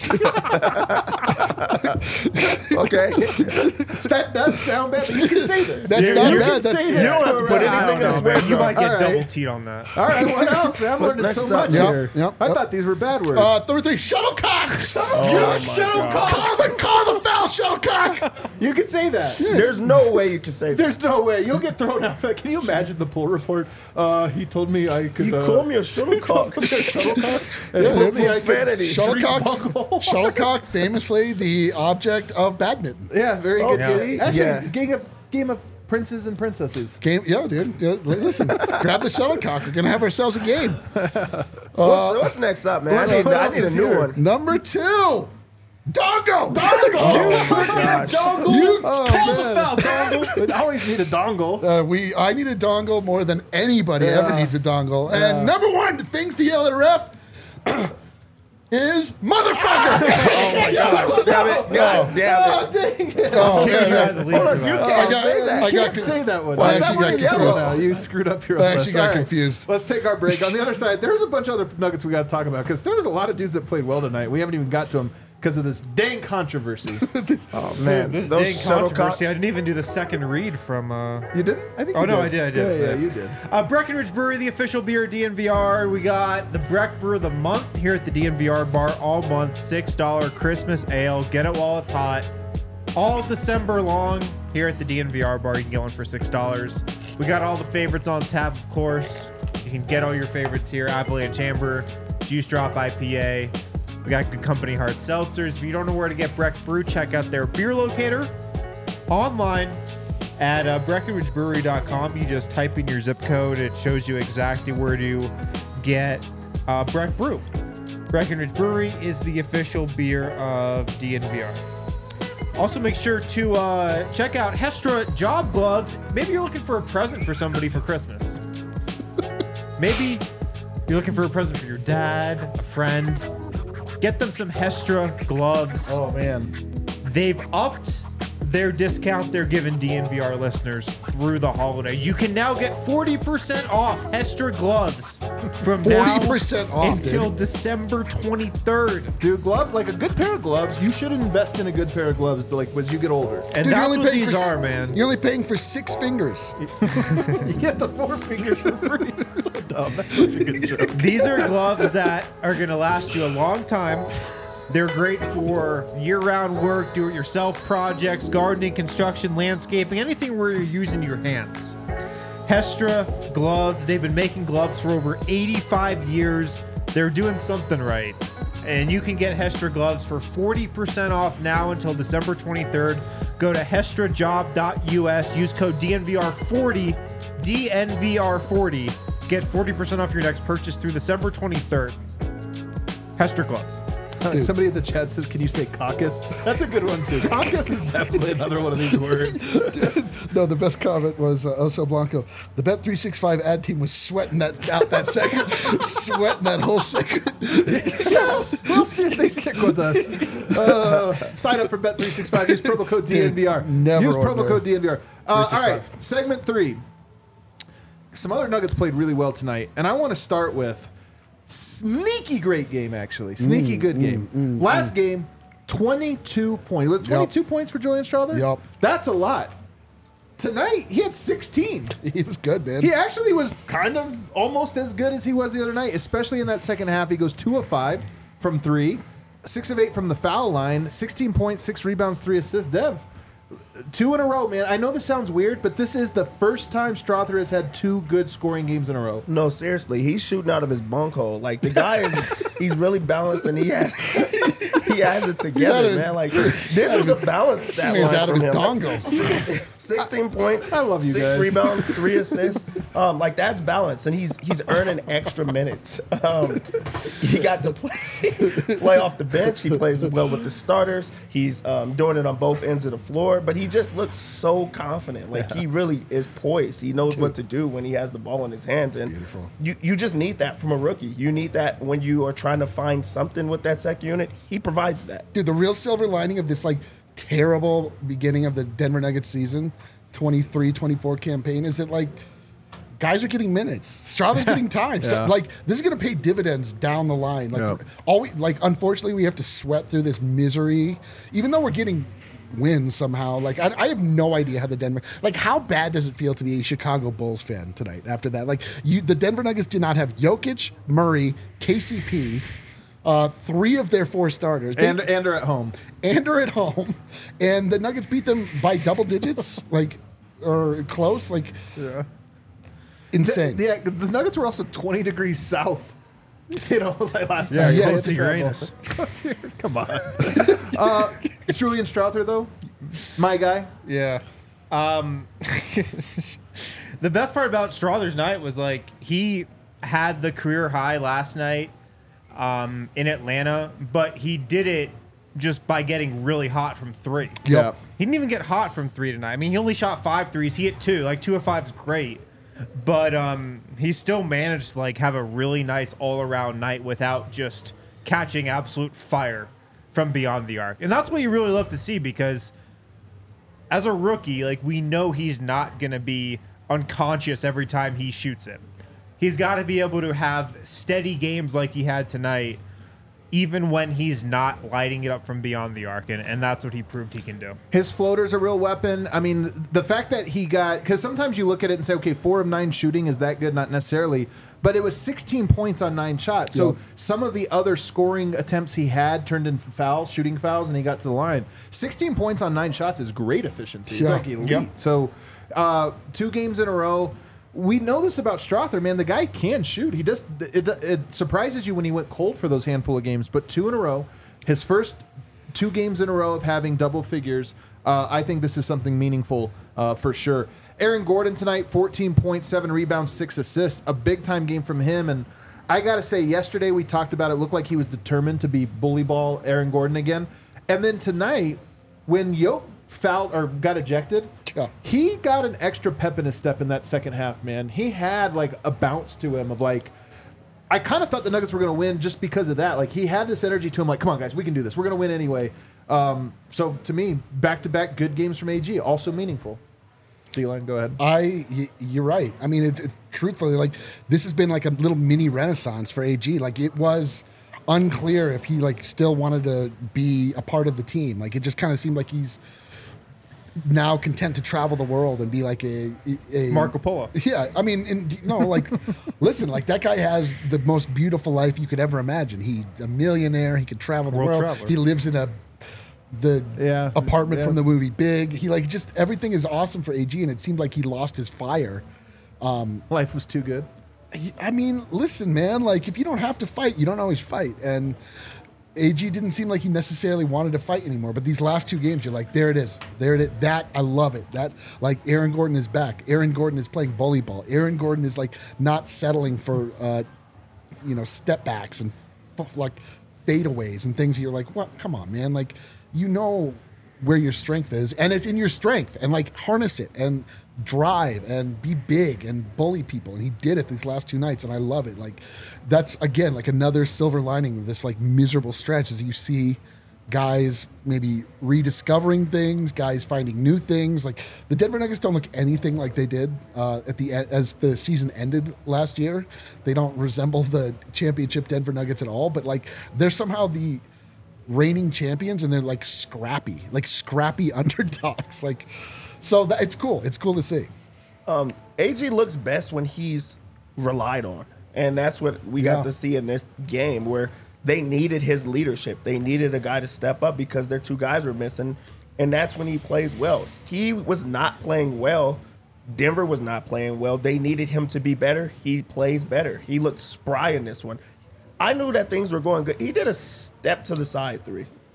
Okay. That does sound bad, but you can say this. That's You- not you bad. can That's say You that. don't have to put I anything don't in the know, swear Man, you might get All right. double teed on that. All right, what else, man? I'm What's learning so next much up? Yep, here. yep, I yep. thought these were bad words. Third thing, shuttlecock. Shuttlecock. Call the foul, shuttlecock. You can say that. There's no way you can say that. There's no way. You'll get thrown out. Can you imagine the poll report? He told me I could. You call me a shuttlecock. shuttlecock and told me I could. Profanity. Shuttlecock, shuttlecock, famously the object of badminton. Yeah, very good. Okay. Actually, Yeah. game of princes and princesses. Game, yeah, dude. Yeah, listen, grab the shuttlecock. We're gonna have ourselves a game. What's next up, man? I what else need a is new here? one. Number 2, dongo. Oh my gosh. You Oh, call the man. foul, dongle. I always need a dongle. I need a dongle more than anybody Yeah. ever needs a dongle. And number 1, things to yell at a ref is motherfucker. Oh my gosh. Damn it. God damn Oh, it. dang it. Oh, Kicking you yeah, out of the league Hold for on, you that. can't got- say that. I You got can't say that one. Well, I Is that actually one got you yelled confused. about? You screwed up your I own actually list. got All right. confused. Let's take our break. On the other side, there's a bunch of other nuggets we got to talk about because there was a lot of dudes that played well tonight. We haven't even got to them because of this dang controversy. Oh man, This those dang shuttlecocks. controversy. I didn't even do the second read from. You didn't? I think. Oh, you no, I did. Yeah, you did. Breckenridge Brewery, the official beer DNVR. We got the Breck Brew of the month here at the DNVR bar all month. $6 Christmas ale. Get it while it's hot. All December long here at the DNVR bar. You can get one for $6. We got all the favorites on tap, of course. You can get all your favorites here. Avalanche Amber, Juice Drop IPA. We got Good Company Hard Seltzers. If you don't know where to get Breck Brew, check out their beer locator online at BreckenridgeBrewery.com. You just type in your zip code. It shows you exactly where to get Breck Brew. Breckenridge Brewery is the official beer of DNVR. Also, make sure to check out Hestra Job Gloves. Maybe you're looking for a present for somebody for Christmas. Maybe you're looking for a present for your dad, a friend. Get them some Hestra gloves. Oh man. They've upped their discount they're giving DNVR listeners through the holiday. You can now get 40% off Hestra gloves from 40% now off, until dude. December 23rd. Dude, gloves, like a good pair of gloves, you should invest in a good pair of gloves like as you get older. And Dude, that's what these are, man. You're only paying for 6 fingers. You get the 4 fingers for free. So dumb. That's such a good joke. These are gloves that are going to last you a long time. They're great for year-round work, do-it-yourself projects, gardening, construction, landscaping, anything where you're using your hands. Hestra gloves, they've been making gloves for over 85 years. They're doing something right. And you can get Hestra gloves for 40% off now until December 23rd. Go to hestrajob.us, use code DNVR40, DNVR40. Get 40% off your next purchase through December 23rd. Hestra gloves. Dude. Somebody in the chat says, "Can you say caucus?" That's a good one too. Caucus is definitely another one of these words. No, the best comment was Oso Blanco. The Bet365 ad team was sweating that out that second, sweating that whole second. We'll see if they stick with us. Sign up for Bet365. Use promo code DNVR. never Use promo order. code DNVR. All 365. right, segment 3. Some other Nuggets played really well tonight, and I want to start with sneaky great game, actually. Sneaky good game. Last game, 22 points. Was it 22 points for Julian Strother? Yup. That's a lot. Tonight, he had 16. He was good, man. He actually was kind of almost as good as he was the other night, especially in that second half. He goes 2 of 5 from 3, 6 of 8 from the foul line, 16 points, 6 rebounds, 3 assists. Dev, 2 in a row, man. I know this sounds weird, but this is the first time Strother has had 2 good scoring games in a row. No, seriously, he's shooting out of his bunk hole. Like the guy is, he's really balanced, and he he has it together, his- man. Like this was a balanced stat Man's line out of from his him. dongle. 16 points. I love you 6 guys. rebounds, 3 assists. Like that's balanced, and he's earning extra minutes. He got to play off the bench. He plays well with the starters. He's doing it on both ends of the floor, but he just looks so confident. Like he really is poised. He knows what to do when he has the ball in his hands, and Beautiful. you just need that from a rookie. You need that when you are trying to find something with that second unit. He provides that. Dude, the real silver lining of this like terrible beginning of the Denver Nuggets season, 23-24 campaign, is that like guys are getting minutes. Strother's getting time. So, Yeah. like this is gonna pay dividends down the line. Like unfortunately we have to sweat through this misery, even though we're getting wins somehow. Like I have no idea how the Denver, like how bad does it feel to be a Chicago Bulls fan tonight after that? Like the Denver Nuggets did not have Jokic, Murray, KCP, 3 of their 4 starters. And are at home. And are at home, and the Nuggets beat them by double digits, like or close, like insane. The Nuggets were also 20 degrees south. You know, like last night. yeah, Close it's to incredible. Uranus. Come on. Julian Strother, though, my guy. Yeah. The best part about Strother's night was like he had the career high last night in Atlanta, but he did it just by getting really hot from 3. Yep. He didn't even get hot from 3 tonight. I mean, he only shot 5 threes. He hit 2. Like 2 of 5 is great, but he still managed to like have a really nice all-around night without just catching absolute fire from beyond the arc. And that's what you really love to see, because as a rookie, like we know he's not going to be unconscious every time he shoots it. He's got to be able to have steady games like he had tonight, even when he's not lighting it up from beyond the arc, and that's what he proved he can do. His floater's a real weapon. I mean, the fact that he got, because sometimes you look at it and say, okay, 4 of 9 shooting, is that good? Not necessarily. But it was 16 points on 9 shots. So Yep. some of the other scoring attempts he had turned into fouls, shooting fouls, and he got to the line. 16 points on 9 shots is great efficiency. It's Yeah. like elite. Yep. So 2 games in a row. We know this about Strother, man. The guy can shoot. He just it surprises you when he went cold for those handful of games. But 2 in a row, his first 2 games in a row of having double figures. I think this is something meaningful for sure. Aaron Gordon tonight, 14 points, 7 rebounds, 6 assists. A big time game from him. And I got to say, yesterday we talked about it. Looked like he was determined to be bully ball Aaron Gordon again. And then tonight, when Yoke fouled or got ejected, Yeah. he got an extra pep in his step in that second half, man. He had like a bounce to him of like, I kind of thought the Nuggets were going to win just because of that. Like he had this energy to him, like, come on, guys, we can do this. We're going to win anyway. So to me, back-to-back good games from AG, also meaningful. D-line, go ahead. You're right. I mean, it's truthfully, like this has been like a little mini renaissance for AG. Like it was unclear if he like still wanted to be a part of the team. Like it just kind of seemed like he's now content to travel the world and be like a Marco Polo. Yeah, I mean, like, listen, like that guy has the most beautiful life you could ever imagine. He's a millionaire. He could travel the World world. traveler. He lives in the apartment yeah. from the movie Big. He like just everything is awesome for AG, and it seemed like he lost his fire. Life was too good. I mean, listen, man, like if you don't have to fight, you don't always fight, and AG didn't seem like he necessarily wanted to fight anymore. But these last 2 games, you're like, there it is. That I love it. That like Aaron Gordon is back. Aaron Gordon is playing volleyball. Aaron Gordon is like not settling for step backs and like fadeaways and things. You're like, what? Come on, man. Like you know where your strength is, and it's in your strength, and like harness it and drive and be big and bully people. And he did it these last 2 nights, and I love it. Like that's again like another silver lining of this like miserable stretch, as you see guys maybe rediscovering things, guys finding new things. Like the Denver Nuggets don't look anything like they did at the end as the season ended last year. They don't resemble the championship Denver Nuggets at all, but like they're somehow the reigning champions, and they're like scrappy underdogs. Like, so it's cool. It's cool to see. AG looks best when he's relied on. And that's what we Yeah. got to see in this game, where they needed his leadership. They needed a guy to step up because their 2 guys were missing. And that's when he plays well. He was not playing well. Denver was not playing well. They needed him to be better. He plays better. He looked spry in this one. I knew that things were going good. He did a step to the side 3.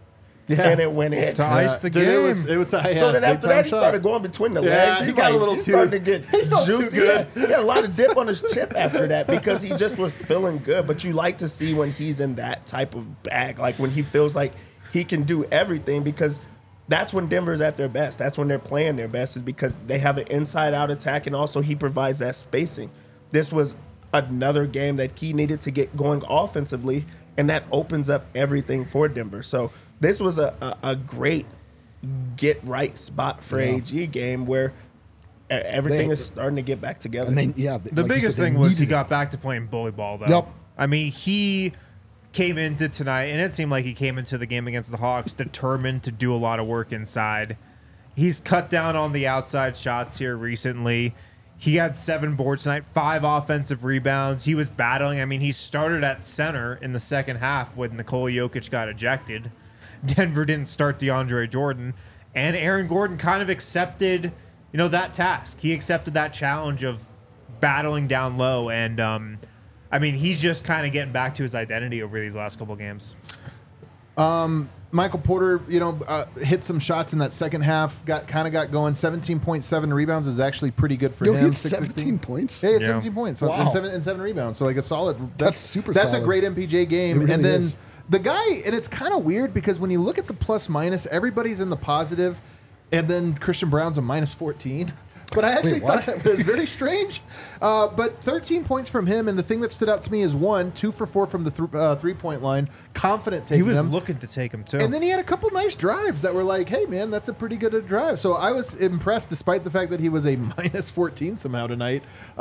Yeah. and it went in. To ice the Dude, game. It was So then after that, he started going between the legs. he got a little too- started to get he felt too juicy. good. He had a lot of dip on his chip after that because he just was feeling good. But you like to see when he's in that type of bag, like when he feels like he can do everything, because that's when Denver's at their best. That's when they're playing their best, is because they have an inside-out attack, and also he provides that spacing. This was another game that he needed to get going offensively, and that opens up everything for Denver. So this was a great get-right spot for AG game where everything is starting to get back together. And The biggest thing was he got back to playing bully ball, though. Yep. I mean, he came into tonight, and it seemed like he came into the game against the Hawks determined to do a lot of work inside. He's cut down on the outside shots here recently. He had 7 boards tonight, 5 offensive rebounds. He was battling. I mean, he started at center in the second half when Nikola Jokic got ejected. Denver didn't start DeAndre Jordan. And Aaron Gordon kind of accepted, that task. He accepted that challenge of battling down low. And, I mean, he's just kind of getting back to his identity over these last couple games. Michael Porter, hit some shots in that second half. Got going. 17.7 rebounds is actually pretty good for Yo, him. he had 616. 17 points. Yeah, he had Yeah. 17 points Wow. and seven rebounds. So like a solid. That's super That's solid. a great MPJ game. It really and then is. the guy, and it's kind of weird because when you look at the plus minus, everybody's in the positive, and then Christian Brown's a minus 14. But I actually Wait, what? thought that was very strange. But 13 points from him, and the thing that stood out to me is 2 for 4 from the 3-point line. Confident taking He was them. looking to take him, too. And then he had a couple nice drives that were like, hey, man, that's a pretty good drive. So I was impressed despite the fact that he was a minus 14 somehow tonight.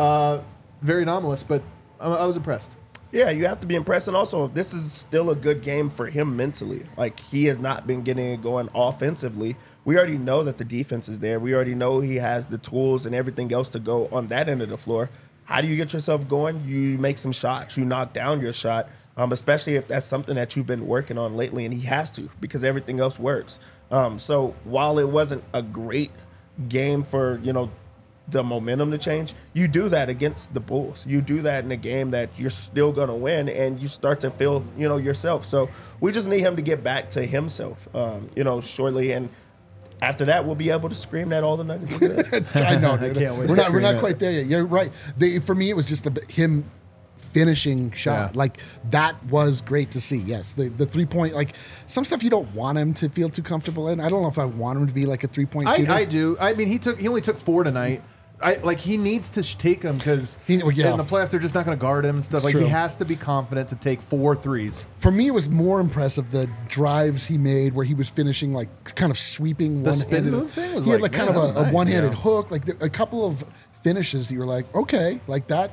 Very anomalous, but I was impressed. Yeah, you have to be impressed. And also, this is still a good game for him mentally. Like, he has not been getting it going offensively. We already know that the defense is there. We already know he has the tools and everything else to go on that end of the floor. How do you get yourself going? You make some shots. You knock down your shot, especially if that's something that you've been working on lately. And he has to, because everything else works. So while it wasn't a great game for, the momentum to change, you do that against the Bulls. You do that in a game that you're still going to win, and you start to feel, yourself. So we just need him to get back to himself, shortly. And after that, we'll be able to scream that all the Nuggets are good. I know, dude. can't wait We're to not scream it. quite there yet. You're right. For me, it was just him finishing shot. Yeah. Like, that was great to see. Yes, the 3-point, like, some stuff you don't want him to feel too comfortable in. I don't know if I want him to be like a 3-point shooter. I do. I mean, he only took 4 tonight. He needs to take them because in the playoffs they're just not going to guard him and stuff. It's true. He has to be confident to take 4 threes. For me, it was more impressive the drives he made where he was finishing, like, kind of sweeping The one-handed. spin move thing was he had like, like kind man, of that was a nice. one-handed Yeah. hook, like a couple of finishes. You were like, okay, like that.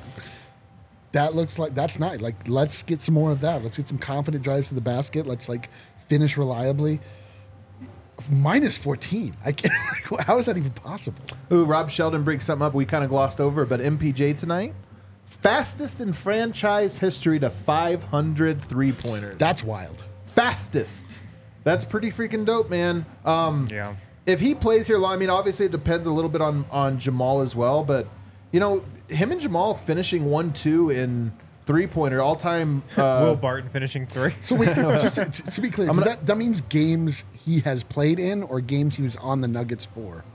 That looks like that's nice. Like, let's get some more of that. Let's get some confident drives to the basket. Let's finish reliably. Minus 14. I can't. How is that even possible? Ooh, Rob Sheldon brings something up we kind of glossed over, but MPJ tonight, fastest in franchise history to 500 3-pointers. That's wild. Fastest. That's pretty freaking dope, man. Yeah. If he plays here long, I mean, obviously it depends a little bit on Jamal as well, but him and Jamal finishing 1-2 in 3-pointer all-time. Will Barton finishing 3. So wait, just to be clear, that means games he has played in or games he was on the Nuggets for?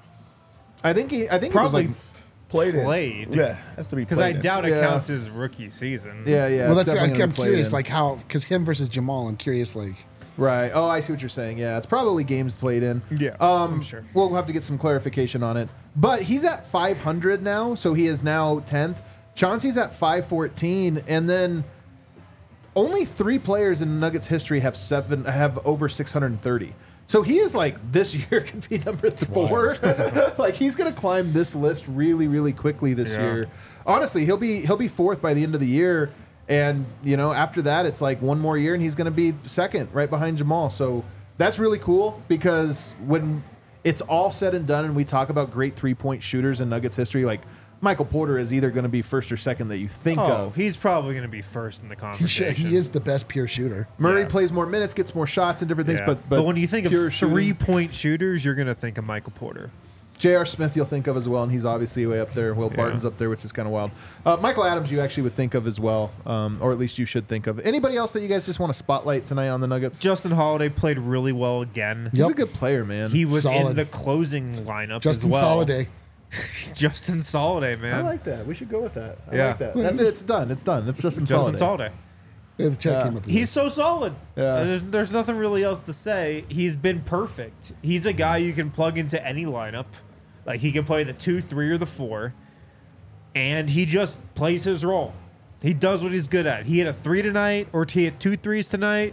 I think it was Probably like, played. Yeah, has to be Because I played in. doubt it Yeah. counts his rookie season. yeah. Well, it's that's definitely gonna I'm be played curious, in. like how because him versus Jamal. I'm curious, like. Right. Oh, I see what you're saying. Yeah, it's probably games played in. Yeah, I'm sure. We'll have to get some clarification on it. But he's at 500 now, so he is now 10th. Chauncey's at 514, and then only 3 players in Nuggets history have over 630. So he is like this year could be number 4. Like he's gonna climb this list really, really quickly this year. Honestly, he'll be 4th by the end of the year. And, after that, it's like one more year and he's going to be 2nd right behind Jamal. So that's really cool because when it's all said and done and we talk about great 3-point shooters in Nuggets history, like Michael Porter is either going to be 1st or 2nd that you think of. He's probably going to be 1st in the conversation. He is the best pure shooter. Murray Yeah. plays more minutes, gets more shots and different things, Yeah. but when you think of pure shooting- 3-point shooters, you're going to think of Michael Porter. J.R. Smith you'll think of as well, and he's obviously way up there. Will Barton's up there, which is kind of wild. Michael Adams you actually would think of as well, or at least you should think of. Anybody else that you guys just want to spotlight tonight on the Nuggets? Justin Holiday played really well again. He's a good player, man. He was Solid. in the closing lineup Justin as well. Soliday. Justin Soliday, man. I like that. We should go with that. I Yeah. like that. That's it. It's done. It's done. It's Justin Justin Soliday. Soliday. Yeah, the chat came up with He's so solid. Yeah. There's nothing really else to say. He's been perfect. He's a guy you can plug into any lineup. Like he can play the 2, 3, or the 4, and he just plays his role. He does what he's good at. He hit a 3 tonight, or he hit 2 threes tonight.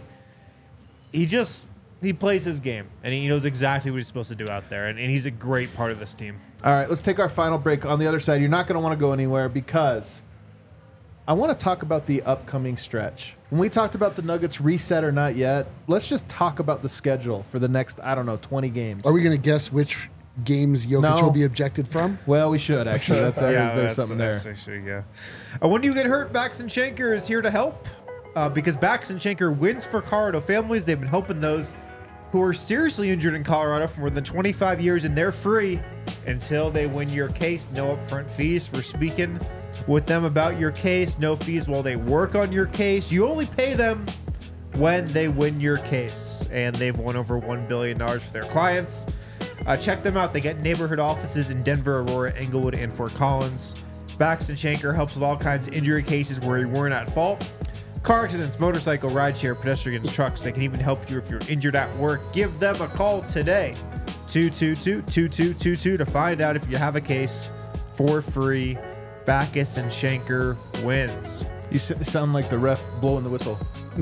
He plays his game, and he knows exactly what he's supposed to do out there, and he's a great part of this team. All right, let's take our final break. On the other side, you're not going to want to go anywhere because I want to talk about the upcoming stretch. When we talked about the Nuggets reset or not yet, let's just talk about the schedule for the next, 20 games. Are we going to guess which games Jokic No. will be ejected from? Well, we should, actually. There's that's something there. Actually, yeah. When you get hurt, Baxton Shanker is here to help because Baxton Shanker wins for Colorado families. They've been helping those who are seriously injured in Colorado for more than 25 years, and they're free until they win your case. No upfront fees for speaking with them about your case. No fees while they work on your case. You only pay them when they win your case, and they've won over $1 billion for their clients. Check them out. They get neighborhood offices in Denver, Aurora, Englewood, and Fort Collins. Baxton Shanker helps with all kinds of injury cases where you weren't at fault. Car accidents, motorcycle, rideshare, pedestrians, trucks. They can even help you if you're injured at work. Give them a call today. 222-2222 to find out if you have a case for free. Backus and Shanker wins. You sound like the ref blowing the whistle.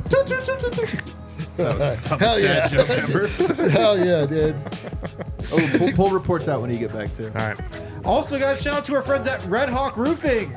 Hell yeah. Joke ever. Hell yeah, dude. Oh, pull reports out when you get back, too. All right. Also, guys, shout out to our friends at Red Hawk Roofing.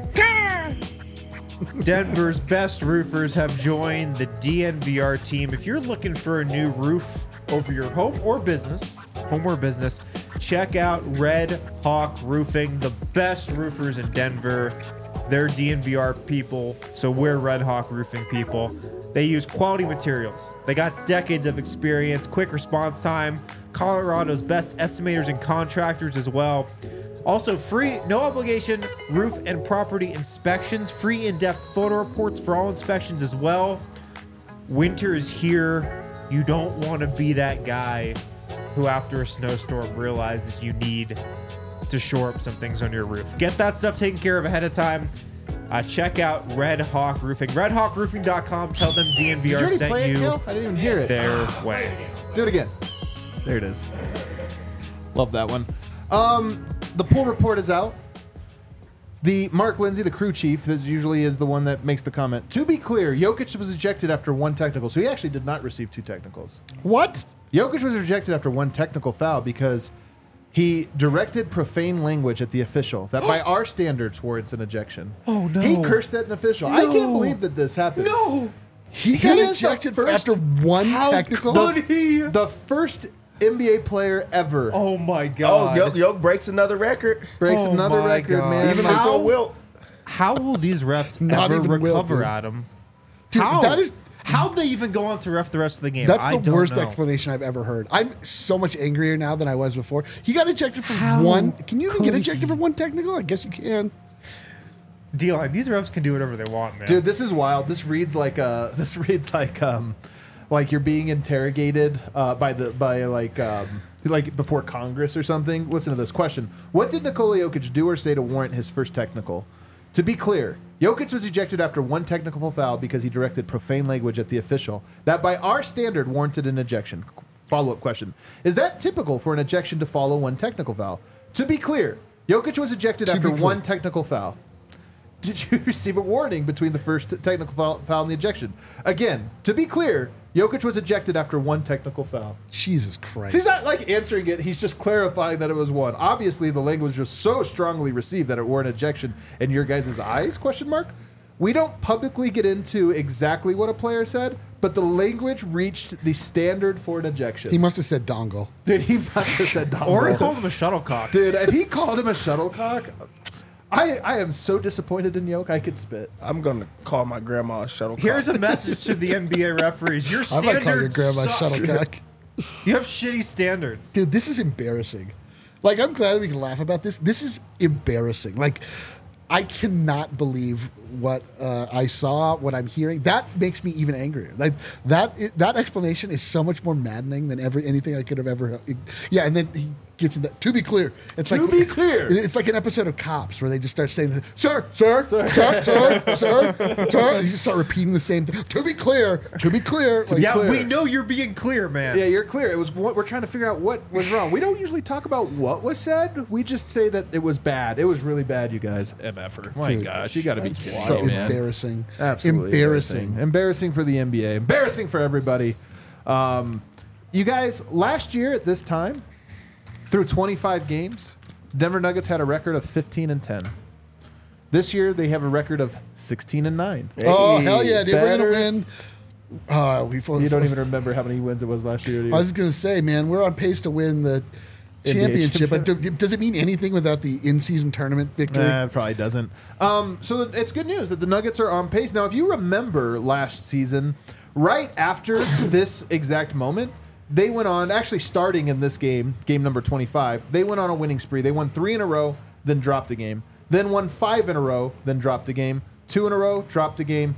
Denver's best roofers have joined the DNVR team. If you're looking for a new roof over your home or business, check out Red Hawk Roofing, the best roofers in Denver. They're DNVR people, so we're Red Hawk Roofing people. They use quality materials. They got decades of experience, quick response time, Colorado's best estimators and contractors as well. Also, free, no obligation roof and property inspections, free in-depth photo reports for all inspections as well. Winter is here. You don't want to be that guy who, after a snowstorm, realizes you need to shore up some things on your roof. Get that stuff taken care of ahead of time. Check out Red Hawk Roofing. RedHawkRoofing.com. Tell them Did you DNVR already sent play it, you Gil? I didn't even hear it. their way. Do it again. There it is. Love that one. The pool report is out. The Mark Lindsay, the crew chief, that usually is the one that makes the comment. To be clear, Jokic was ejected after 1 technical, so he actually did not receive 2 technicals. What? Jokic was rejected after 1 technical foul because he directed profane language at the official that by our standards warrants an ejection. Oh, no. He cursed at an official. I can't believe that this happened. No! He got is the ejected first- after one technical? The first NBA player ever Oh my Oh, God! Yoke breaks another record. breaks Oh another my record, God. man. Even Like, before Wilt. How will these refs Not ever even Will, recover, dude. Adam? Dude, How? that is How'd they even go on to ref the rest of the game? that's I the don't worst know. explanation I've ever heard. I'm so much angrier now than I was before. He got ejected for How one. Can you even get could ejected for one technical? I guess you can. D-line, these refs can do whatever they want, man. dude, this is wild. This reads like like you're being interrogated like before Congress or something. Listen to this question: what did Nikola Jokic do or say to warrant his first technical? To be clear, Jokic was ejected after 1 technical foul because he directed profane language at the official that by our standard warranted an ejection. Follow-up question: is that typical for an ejection to follow 1 technical foul? To be clear, Jokic was ejected after 1 technical foul. Did you receive a warning between the first technical foul and the ejection? Again, to be clear, Jokic was ejected after 1 technical foul. Jesus Christ. He's not like answering it. He's just clarifying that it was 1. Obviously, the language was so strongly received that it were an ejection in your guys' eyes, question mark. We don't publicly get into exactly what a player said, but the language reached the standard for an ejection. He must have said dongle. Dude, he must have said dongle. or he called him a shuttlecock. Dude, if he called him a shuttlecock, I am so disappointed in Yoke, I could spit. I'm going to call my grandma a shuttlecock. Here's a message to the NBA referees: your I might call your standards grandma suck. shuttlecock. You have shitty standards. Dude, this is embarrassing. Like, I'm glad we can laugh about this. This is embarrassing. Like, I cannot believe what I saw, what I'm hearing. That makes me even angrier. Like that explanation is so much more maddening than anything I could have ever. Yeah, and then he gets in that. To be clear, it's To be clear. It's like an episode of Cops where they just start saying, "Sir, sir, sir, sir, sir, sir." You just start repeating the same thing. To be clear, to be clear. Like, Yeah, clear. we know you're being clear, man. Yeah, you're clear. It was what we're trying to figure out what was wrong. We don't usually talk about what was said. We just say that it was bad. It was really bad, you guys. MFer. My Dude, gosh, you got to be that's kidding so me, man. embarrassing. Absolutely embarrassing. Embarrassing for the NBA. Embarrassing for everybody. You guys, last year at this time, through 25 games, Denver Nuggets had a record of 15-10. This year they have a record of 16-9. Oh hell yeah, dude! We're better. gonna win. You don't even remember how many wins it was last year, do you? I was gonna say, man, we're on pace to win the championship. But does it mean anything without the in-season tournament victory? Nah, it probably doesn't. So it's good news that the Nuggets are on pace. Now, if you remember last season, right after this exact moment, they went on, actually starting in this game number 25, they went on a winning spree. They won 3 in a row, then dropped a game. Then won 5 in a row, then dropped a game. 2 in a row, dropped a game.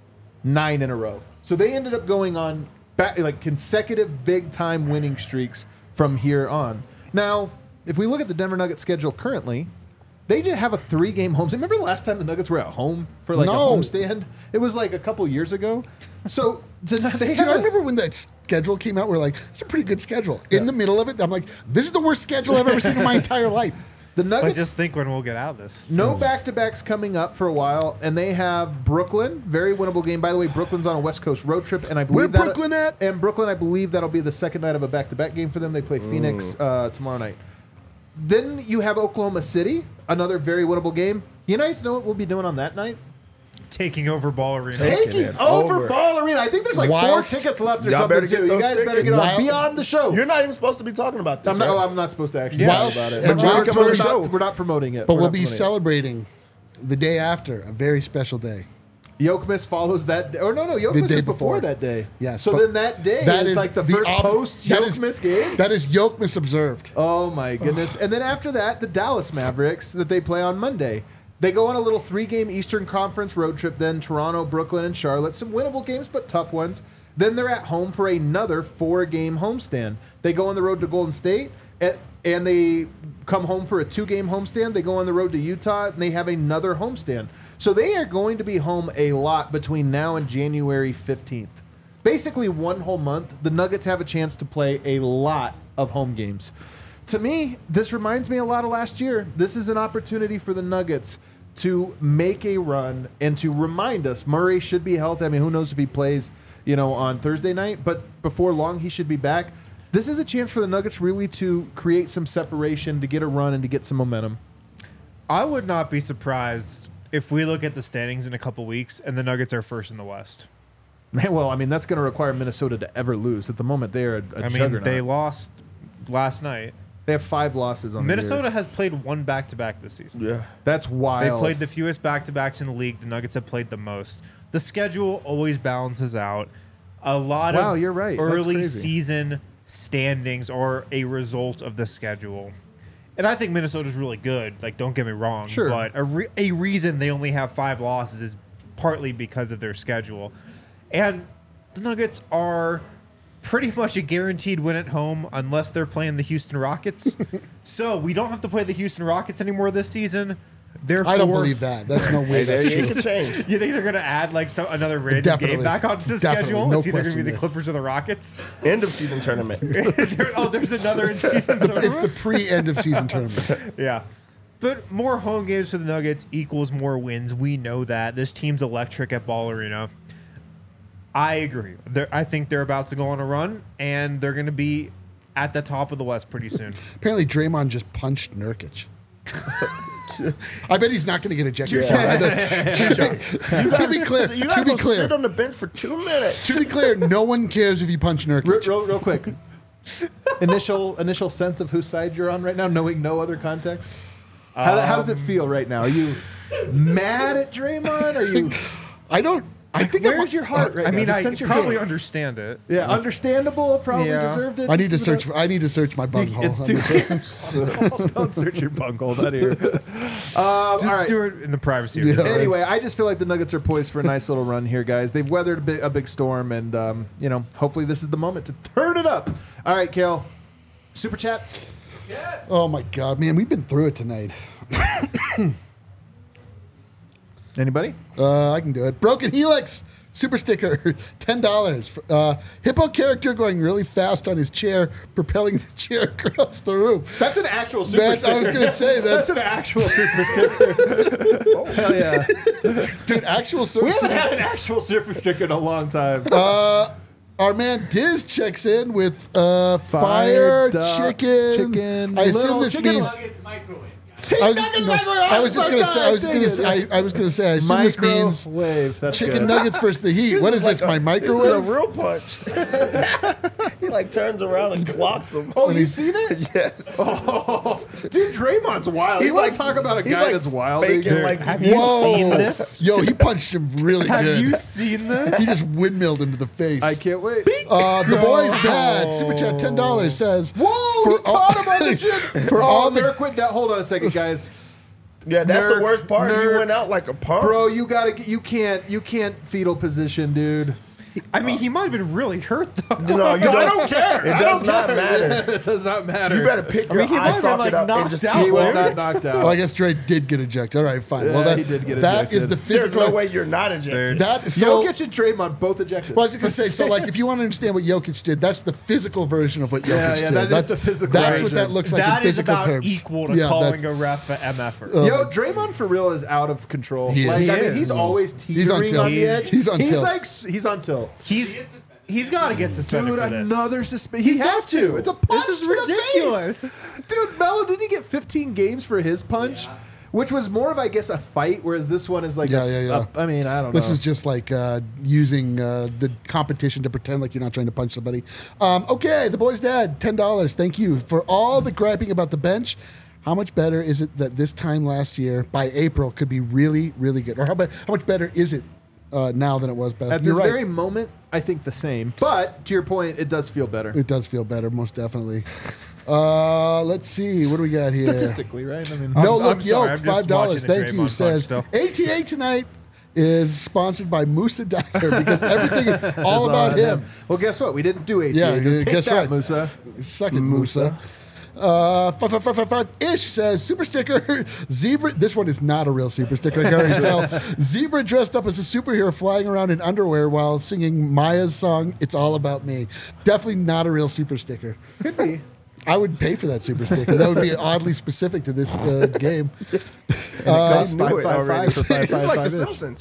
9 in a row. So they ended up going on like consecutive big-time winning streaks from here on. Now, if we look at the Denver Nuggets schedule currently, they just have a 3-game home. Remember the last time the Nuggets were at home for like a homestand? It was like a couple years ago. So they have Dude, I remember when that schedule came out. We're like, it's a pretty good schedule. In the middle of it, I'm like, this is the worst schedule I've ever seen in my entire life. the But Nuggets just think when we'll get out of this. no back-to-backs coming up for a while, and they have Brooklyn, very winnable game. By the way, Brooklyn's on a West Coast road trip, and I believe Where Brooklyn at? And Brooklyn, I believe that'll be the second night of a back-to-back game for them. They play Phoenix tomorrow night. Then you have Oklahoma City, another very winnable game. You guys know what we'll be doing on that night? Taking over Ball Arena. Taking it over over. Ball Arena. I think there's like 4 Whilst- tickets left or Y'all something better get too. You those guys better get tickets. on Whilst- beyond the show. You're not even supposed to be talking about this. I'm not, right? I'm not supposed to actually Whilst- talk about it. and We're whilst not- we're we're show- not- we're not promoting it. But We're we'll not be promoting it. celebrating the day after, a very special day. Yokmas follows that day. Or no, Yokmas day is before before. that day. Yes, So but then that day is like the first post that is- Yokmas game. That is Yokmas observed. Oh my goodness. And then after that, the Dallas Mavericks that they play on Monday. They go on a little 3-game Eastern Conference road trip, then Toronto, Brooklyn, and Charlotte. Some winnable games, but tough ones. Then they're at home for another 4-game homestand. They go on the road to Golden State, and they come home for a 2-game homestand. They go on the road to Utah, and they have another homestand. So they are going to be home a lot between now and January 15th. Basically, one whole month, the Nuggets have a chance to play a lot of home games. To me, this reminds me a lot of last year. This is an opportunity for the Nuggets to make a run and to remind us Murray should be healthy. I mean, who knows if he plays, on Thursday night, but before long he should be back. This is a chance for the Nuggets really to create some separation, to get a run, and to get some momentum. I would not be surprised if we look at the standings in a couple weeks and the Nuggets are first in the West. Man, well, I mean, that's going to require Minnesota to ever lose. At the moment, they are a juggernaut. They lost last night. They have 5 losses on the Minnesota year. has played 1 back-to-back this season. Yeah. That's They wild. played the fewest back-to-backs in the league. The Nuggets have played the most. The schedule always balances out. A lot Wow, of you're right. That's early crazy. season standings are a result of the schedule. And I think Minnesota's really good. Like, don't get me wrong. Sure. But a reason they only have 5 losses is partly because of their schedule. And the Nuggets are pretty much a guaranteed win at home unless they're playing the Houston Rockets. So we don't have to play the Houston Rockets anymore this season. Therefore, I don't believe that. That's no way that's It true. can change. You think they're going to add like another random Definitely. game back onto the Definitely. schedule? No It's either going to be question the there. Clippers or the Rockets. End of season tournament. There's another in-season It's the tournament. pre-end of season tournament. Yeah. But more home games for the Nuggets equals more wins. We know that. This team's electric at Ball Arena. I agree. I think they're about to go on a run, and they're going to be at the top of the West pretty soon. Apparently, Draymond just punched Nurkic. I bet he's not going to get ejected. You To be clear, you to gotta be go clear, sit on the bench for 2 minutes. to be clear, no one cares if you punch Nurkic. Real quick. Initial sense of whose side you're on right now, knowing no other context. How does it feel right now? Are you mad at Draymond? Are you? I don't I think Where's your heart right I now? mean, Just I sense your probably feelings. understand it. Yeah, understandable. Probably Yeah. deserved it. I need to Just search. about- I need to search my bunghole. It's too. Don't search your bunghole. Not here. All Just right. do it in the privacy of Yeah. your home. Anyway, I just feel like the Nuggets are poised for a nice little run here, guys. They've weathered a big storm, and hopefully this is the moment to turn it up. All right, Kale. Super chats. Oh my god, man, we've been through it tonight. Anybody? I can do it. Broken Helix super sticker, $10. Hippo character going really fast on his chair, propelling the chair across the room. That's an actual super That- sticker. I was gonna say that's an actual super sticker. Oh hell yeah! Dude, actual We super haven't had an actual super sticker in a long time. Our man Diz checks in with fire duck chicken. I assume little this chicken means. Nuggets microwave. I was just gonna say. I was gonna say. I assume this means Microwave. That's chicken good. nuggets versus the heat. What is this? My This is a microwave? real punch. He like turns around and clocks him. Oh, you seen it? Yes. Oh, dude, Draymond's wild. He's You want like- to talk about a he's guy like that's wild? faking dude. like Have you seen this? Yo, he punched him really Have good. you seen He this? just windmilled him to the face. I can't wait. The boy's dad, super chat $10 says, Whoa, he caught him on the chin. For all the- Nurk went down. Hold on a second, guys. Yeah, that's Nurk, the worst part. Nurk. He went out like a pump. Bro, you can't fetal position, dude. I mean, he might have been really hurt though. No, you I don't care. It I does don't not care. matter. It does not matter. You better pick your he might eye have been, socket like, up and knocked just out. He keep was Dude. not knocked out. Well, I guess Dre did get ejected. All right, fine. Yeah, well, that, he did get that is ejected. the There's physical. no way you're not ejected. That so. Jokic and Draymond both ejected. Well, I was going to say, so like, if you want to understand what Jokic did, that's the physical version of what Jokic Yeah, did. that is that's the physical That's what version. that looks like That in is physical about terms. equal to Yeah, calling that's- a ref a MFer. Yo, Draymond for real is out of control. He is. Like, I He mean, he's is. always He's on teetering tilt. on the edge. He's on tilt. He's on tilt. He's got to get suspended Dude, for this. another suspension. He has to. It's a punch This is to the ridiculous. face. Dude, Melo, didn't he get 15 games for his punch? Which was more of, I guess, a fight, whereas this one is like, Yeah. I mean, I don't know. This is just like using the competition to pretend like you're not trying to punch somebody. Okay, the boy's dad, $10. Thank you for all the griping about the bench. How much better is it that this time last year, by April, could be really, really good? Or how much better is it now than it was back? At You're this right. very moment, I think the same. But to your point, it does feel better. It does feel better, most definitely. Let's see. What do we got here? Statistically, right? I mean, No I'm Look sorry, Yoke, I'm just $5. watching the Thank you. Draymond Says punch still. ATA tonight is sponsored by Musa Dyer because everything is all about him. Well, guess what? We didn't do ATA. Yeah, Take guess that, right. Musa. Suck it, Musa. 55555 ish says super sticker zebra. This one is not a real super sticker. I can already tell. Zebra dressed up as a superhero flying around in underwear while singing Maya's song "It's All About Me." Definitely not a real super sticker. Could be. I would pay for that super sticker. That would be oddly specific to this game. I Cost knew it 555 already. for It's like 555 The -ish. Simpsons.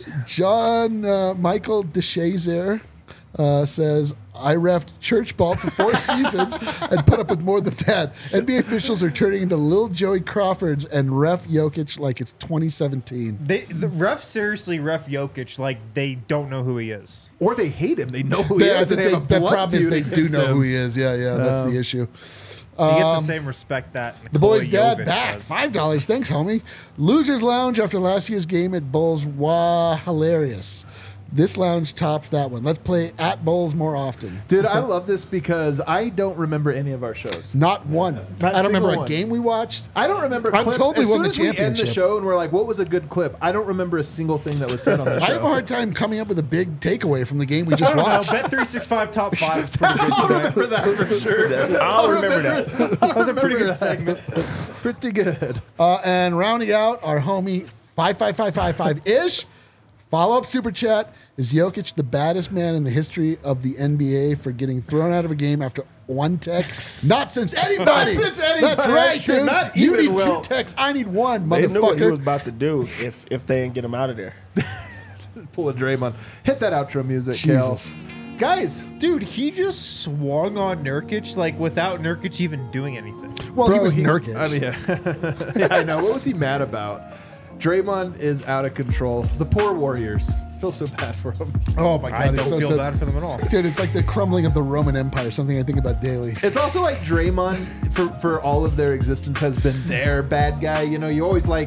John Michael DeShazer says, I refed church ball for 4 seasons and put up with more than that. NBA officials are turning into little Joey Crawfords and ref Jokic like it's 2017. The refs seriously ref Jokic like they don't know who he is. Or they hate him. They know who he I is. think and they have a the blood problem is feud they do against know him. who he is. Yeah, that's the issue. He gets the same respect that The Nikola boy's dad Jovic back. does. $5. Thanks, homie. Losers Lounge after last year's game at Bulls. Wow, hilarious. This lounge tops that one. Let's play at Bulls more often. Dude, I love this because I don't remember any of our shows. Not one. Not I don't remember single a one. game we watched. I don't remember I'm clips. totally as won soon the as we end the championship. show and we're like, what was a good clip? I don't remember a single thing that was said on the show. I have a hard time coming up with a big takeaway from the game we just I don't know. watched. Bet365 top 5 is pretty good I tonight. remember that for sure. I'll remember that. That was a pretty remember good that. segment. Pretty good. And rounding out our homie 55555-ish. Follow-up super chat. Is Jokic the baddest man in the history of the NBA for getting thrown out of a game after 1 tech? Not since anybody. Not since anybody. That's right, Sure, dude. not You even need Will. 2 techs. I need 1, They knew what he was motherfucker. about to do if they didn't get him out of there. Pull a Draymond. Hit that outro music, Kale. Jesus. Guys, Dude, he just swung on Nurkic like without Nurkic even doing anything. Well, he bro, was Nurkic. I mean, yeah, I know. What was he mad about? Draymond is out of control. The poor Warriors. Feel so bad for him. Oh, my God. I it's don't so feel sad. bad for them at all. Dude, it's like the crumbling of the Roman Empire, something I think about daily. It's also like Draymond, for all of their existence, has been their bad guy. You know, you always like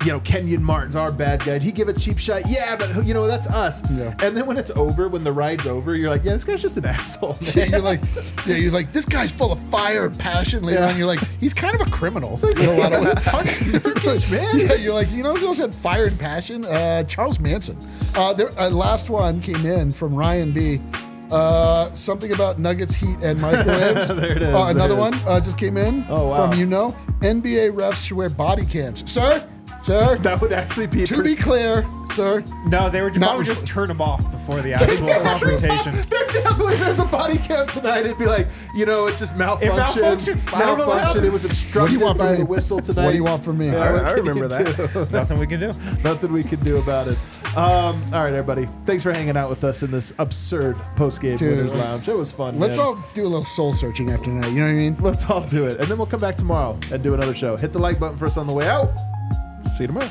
Kenyon Martin's our bad guy. Did he give a cheap shot? Yeah, but that's us. Yeah. And then when it's over, when the ride's over, you're like, yeah, this guy's just an asshole, man. You're like, this guy's full of fire and passion. Later on, you're like, he's kind of a criminal in a lot of ways. Punch Nurkic, man. Yeah, you're like, who else had fire and passion? Charles Manson. Last one came in from Ryan B. Something about Nuggets, Heat, and microwaves. There it is. Another one just came in Oh, wow. from NBA refs should wear body cams. Sir, That would actually be to be clear, sir. No, they were probably just turn them off before the actual confrontation. There's a body cam tonight. It'd be like, it's just malfunction. malfunctioned. I don't know what happened. It was obstructed by the whistle tonight. What do you want from me? Yeah, I what can remember you that. do? Nothing we can do. Nothing we can do about it. All right, everybody. Thanks for hanging out with us in this absurd post-game Dude, Winners Lounge. It was fun. Let's man. all do a little soul searching after tonight. You know what I mean? Let's all do it. And then we'll come back tomorrow and do another show. Hit the like button for us on the way out. See you tomorrow.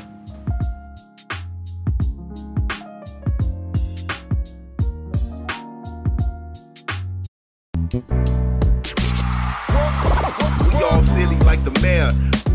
We all silly like the mayor.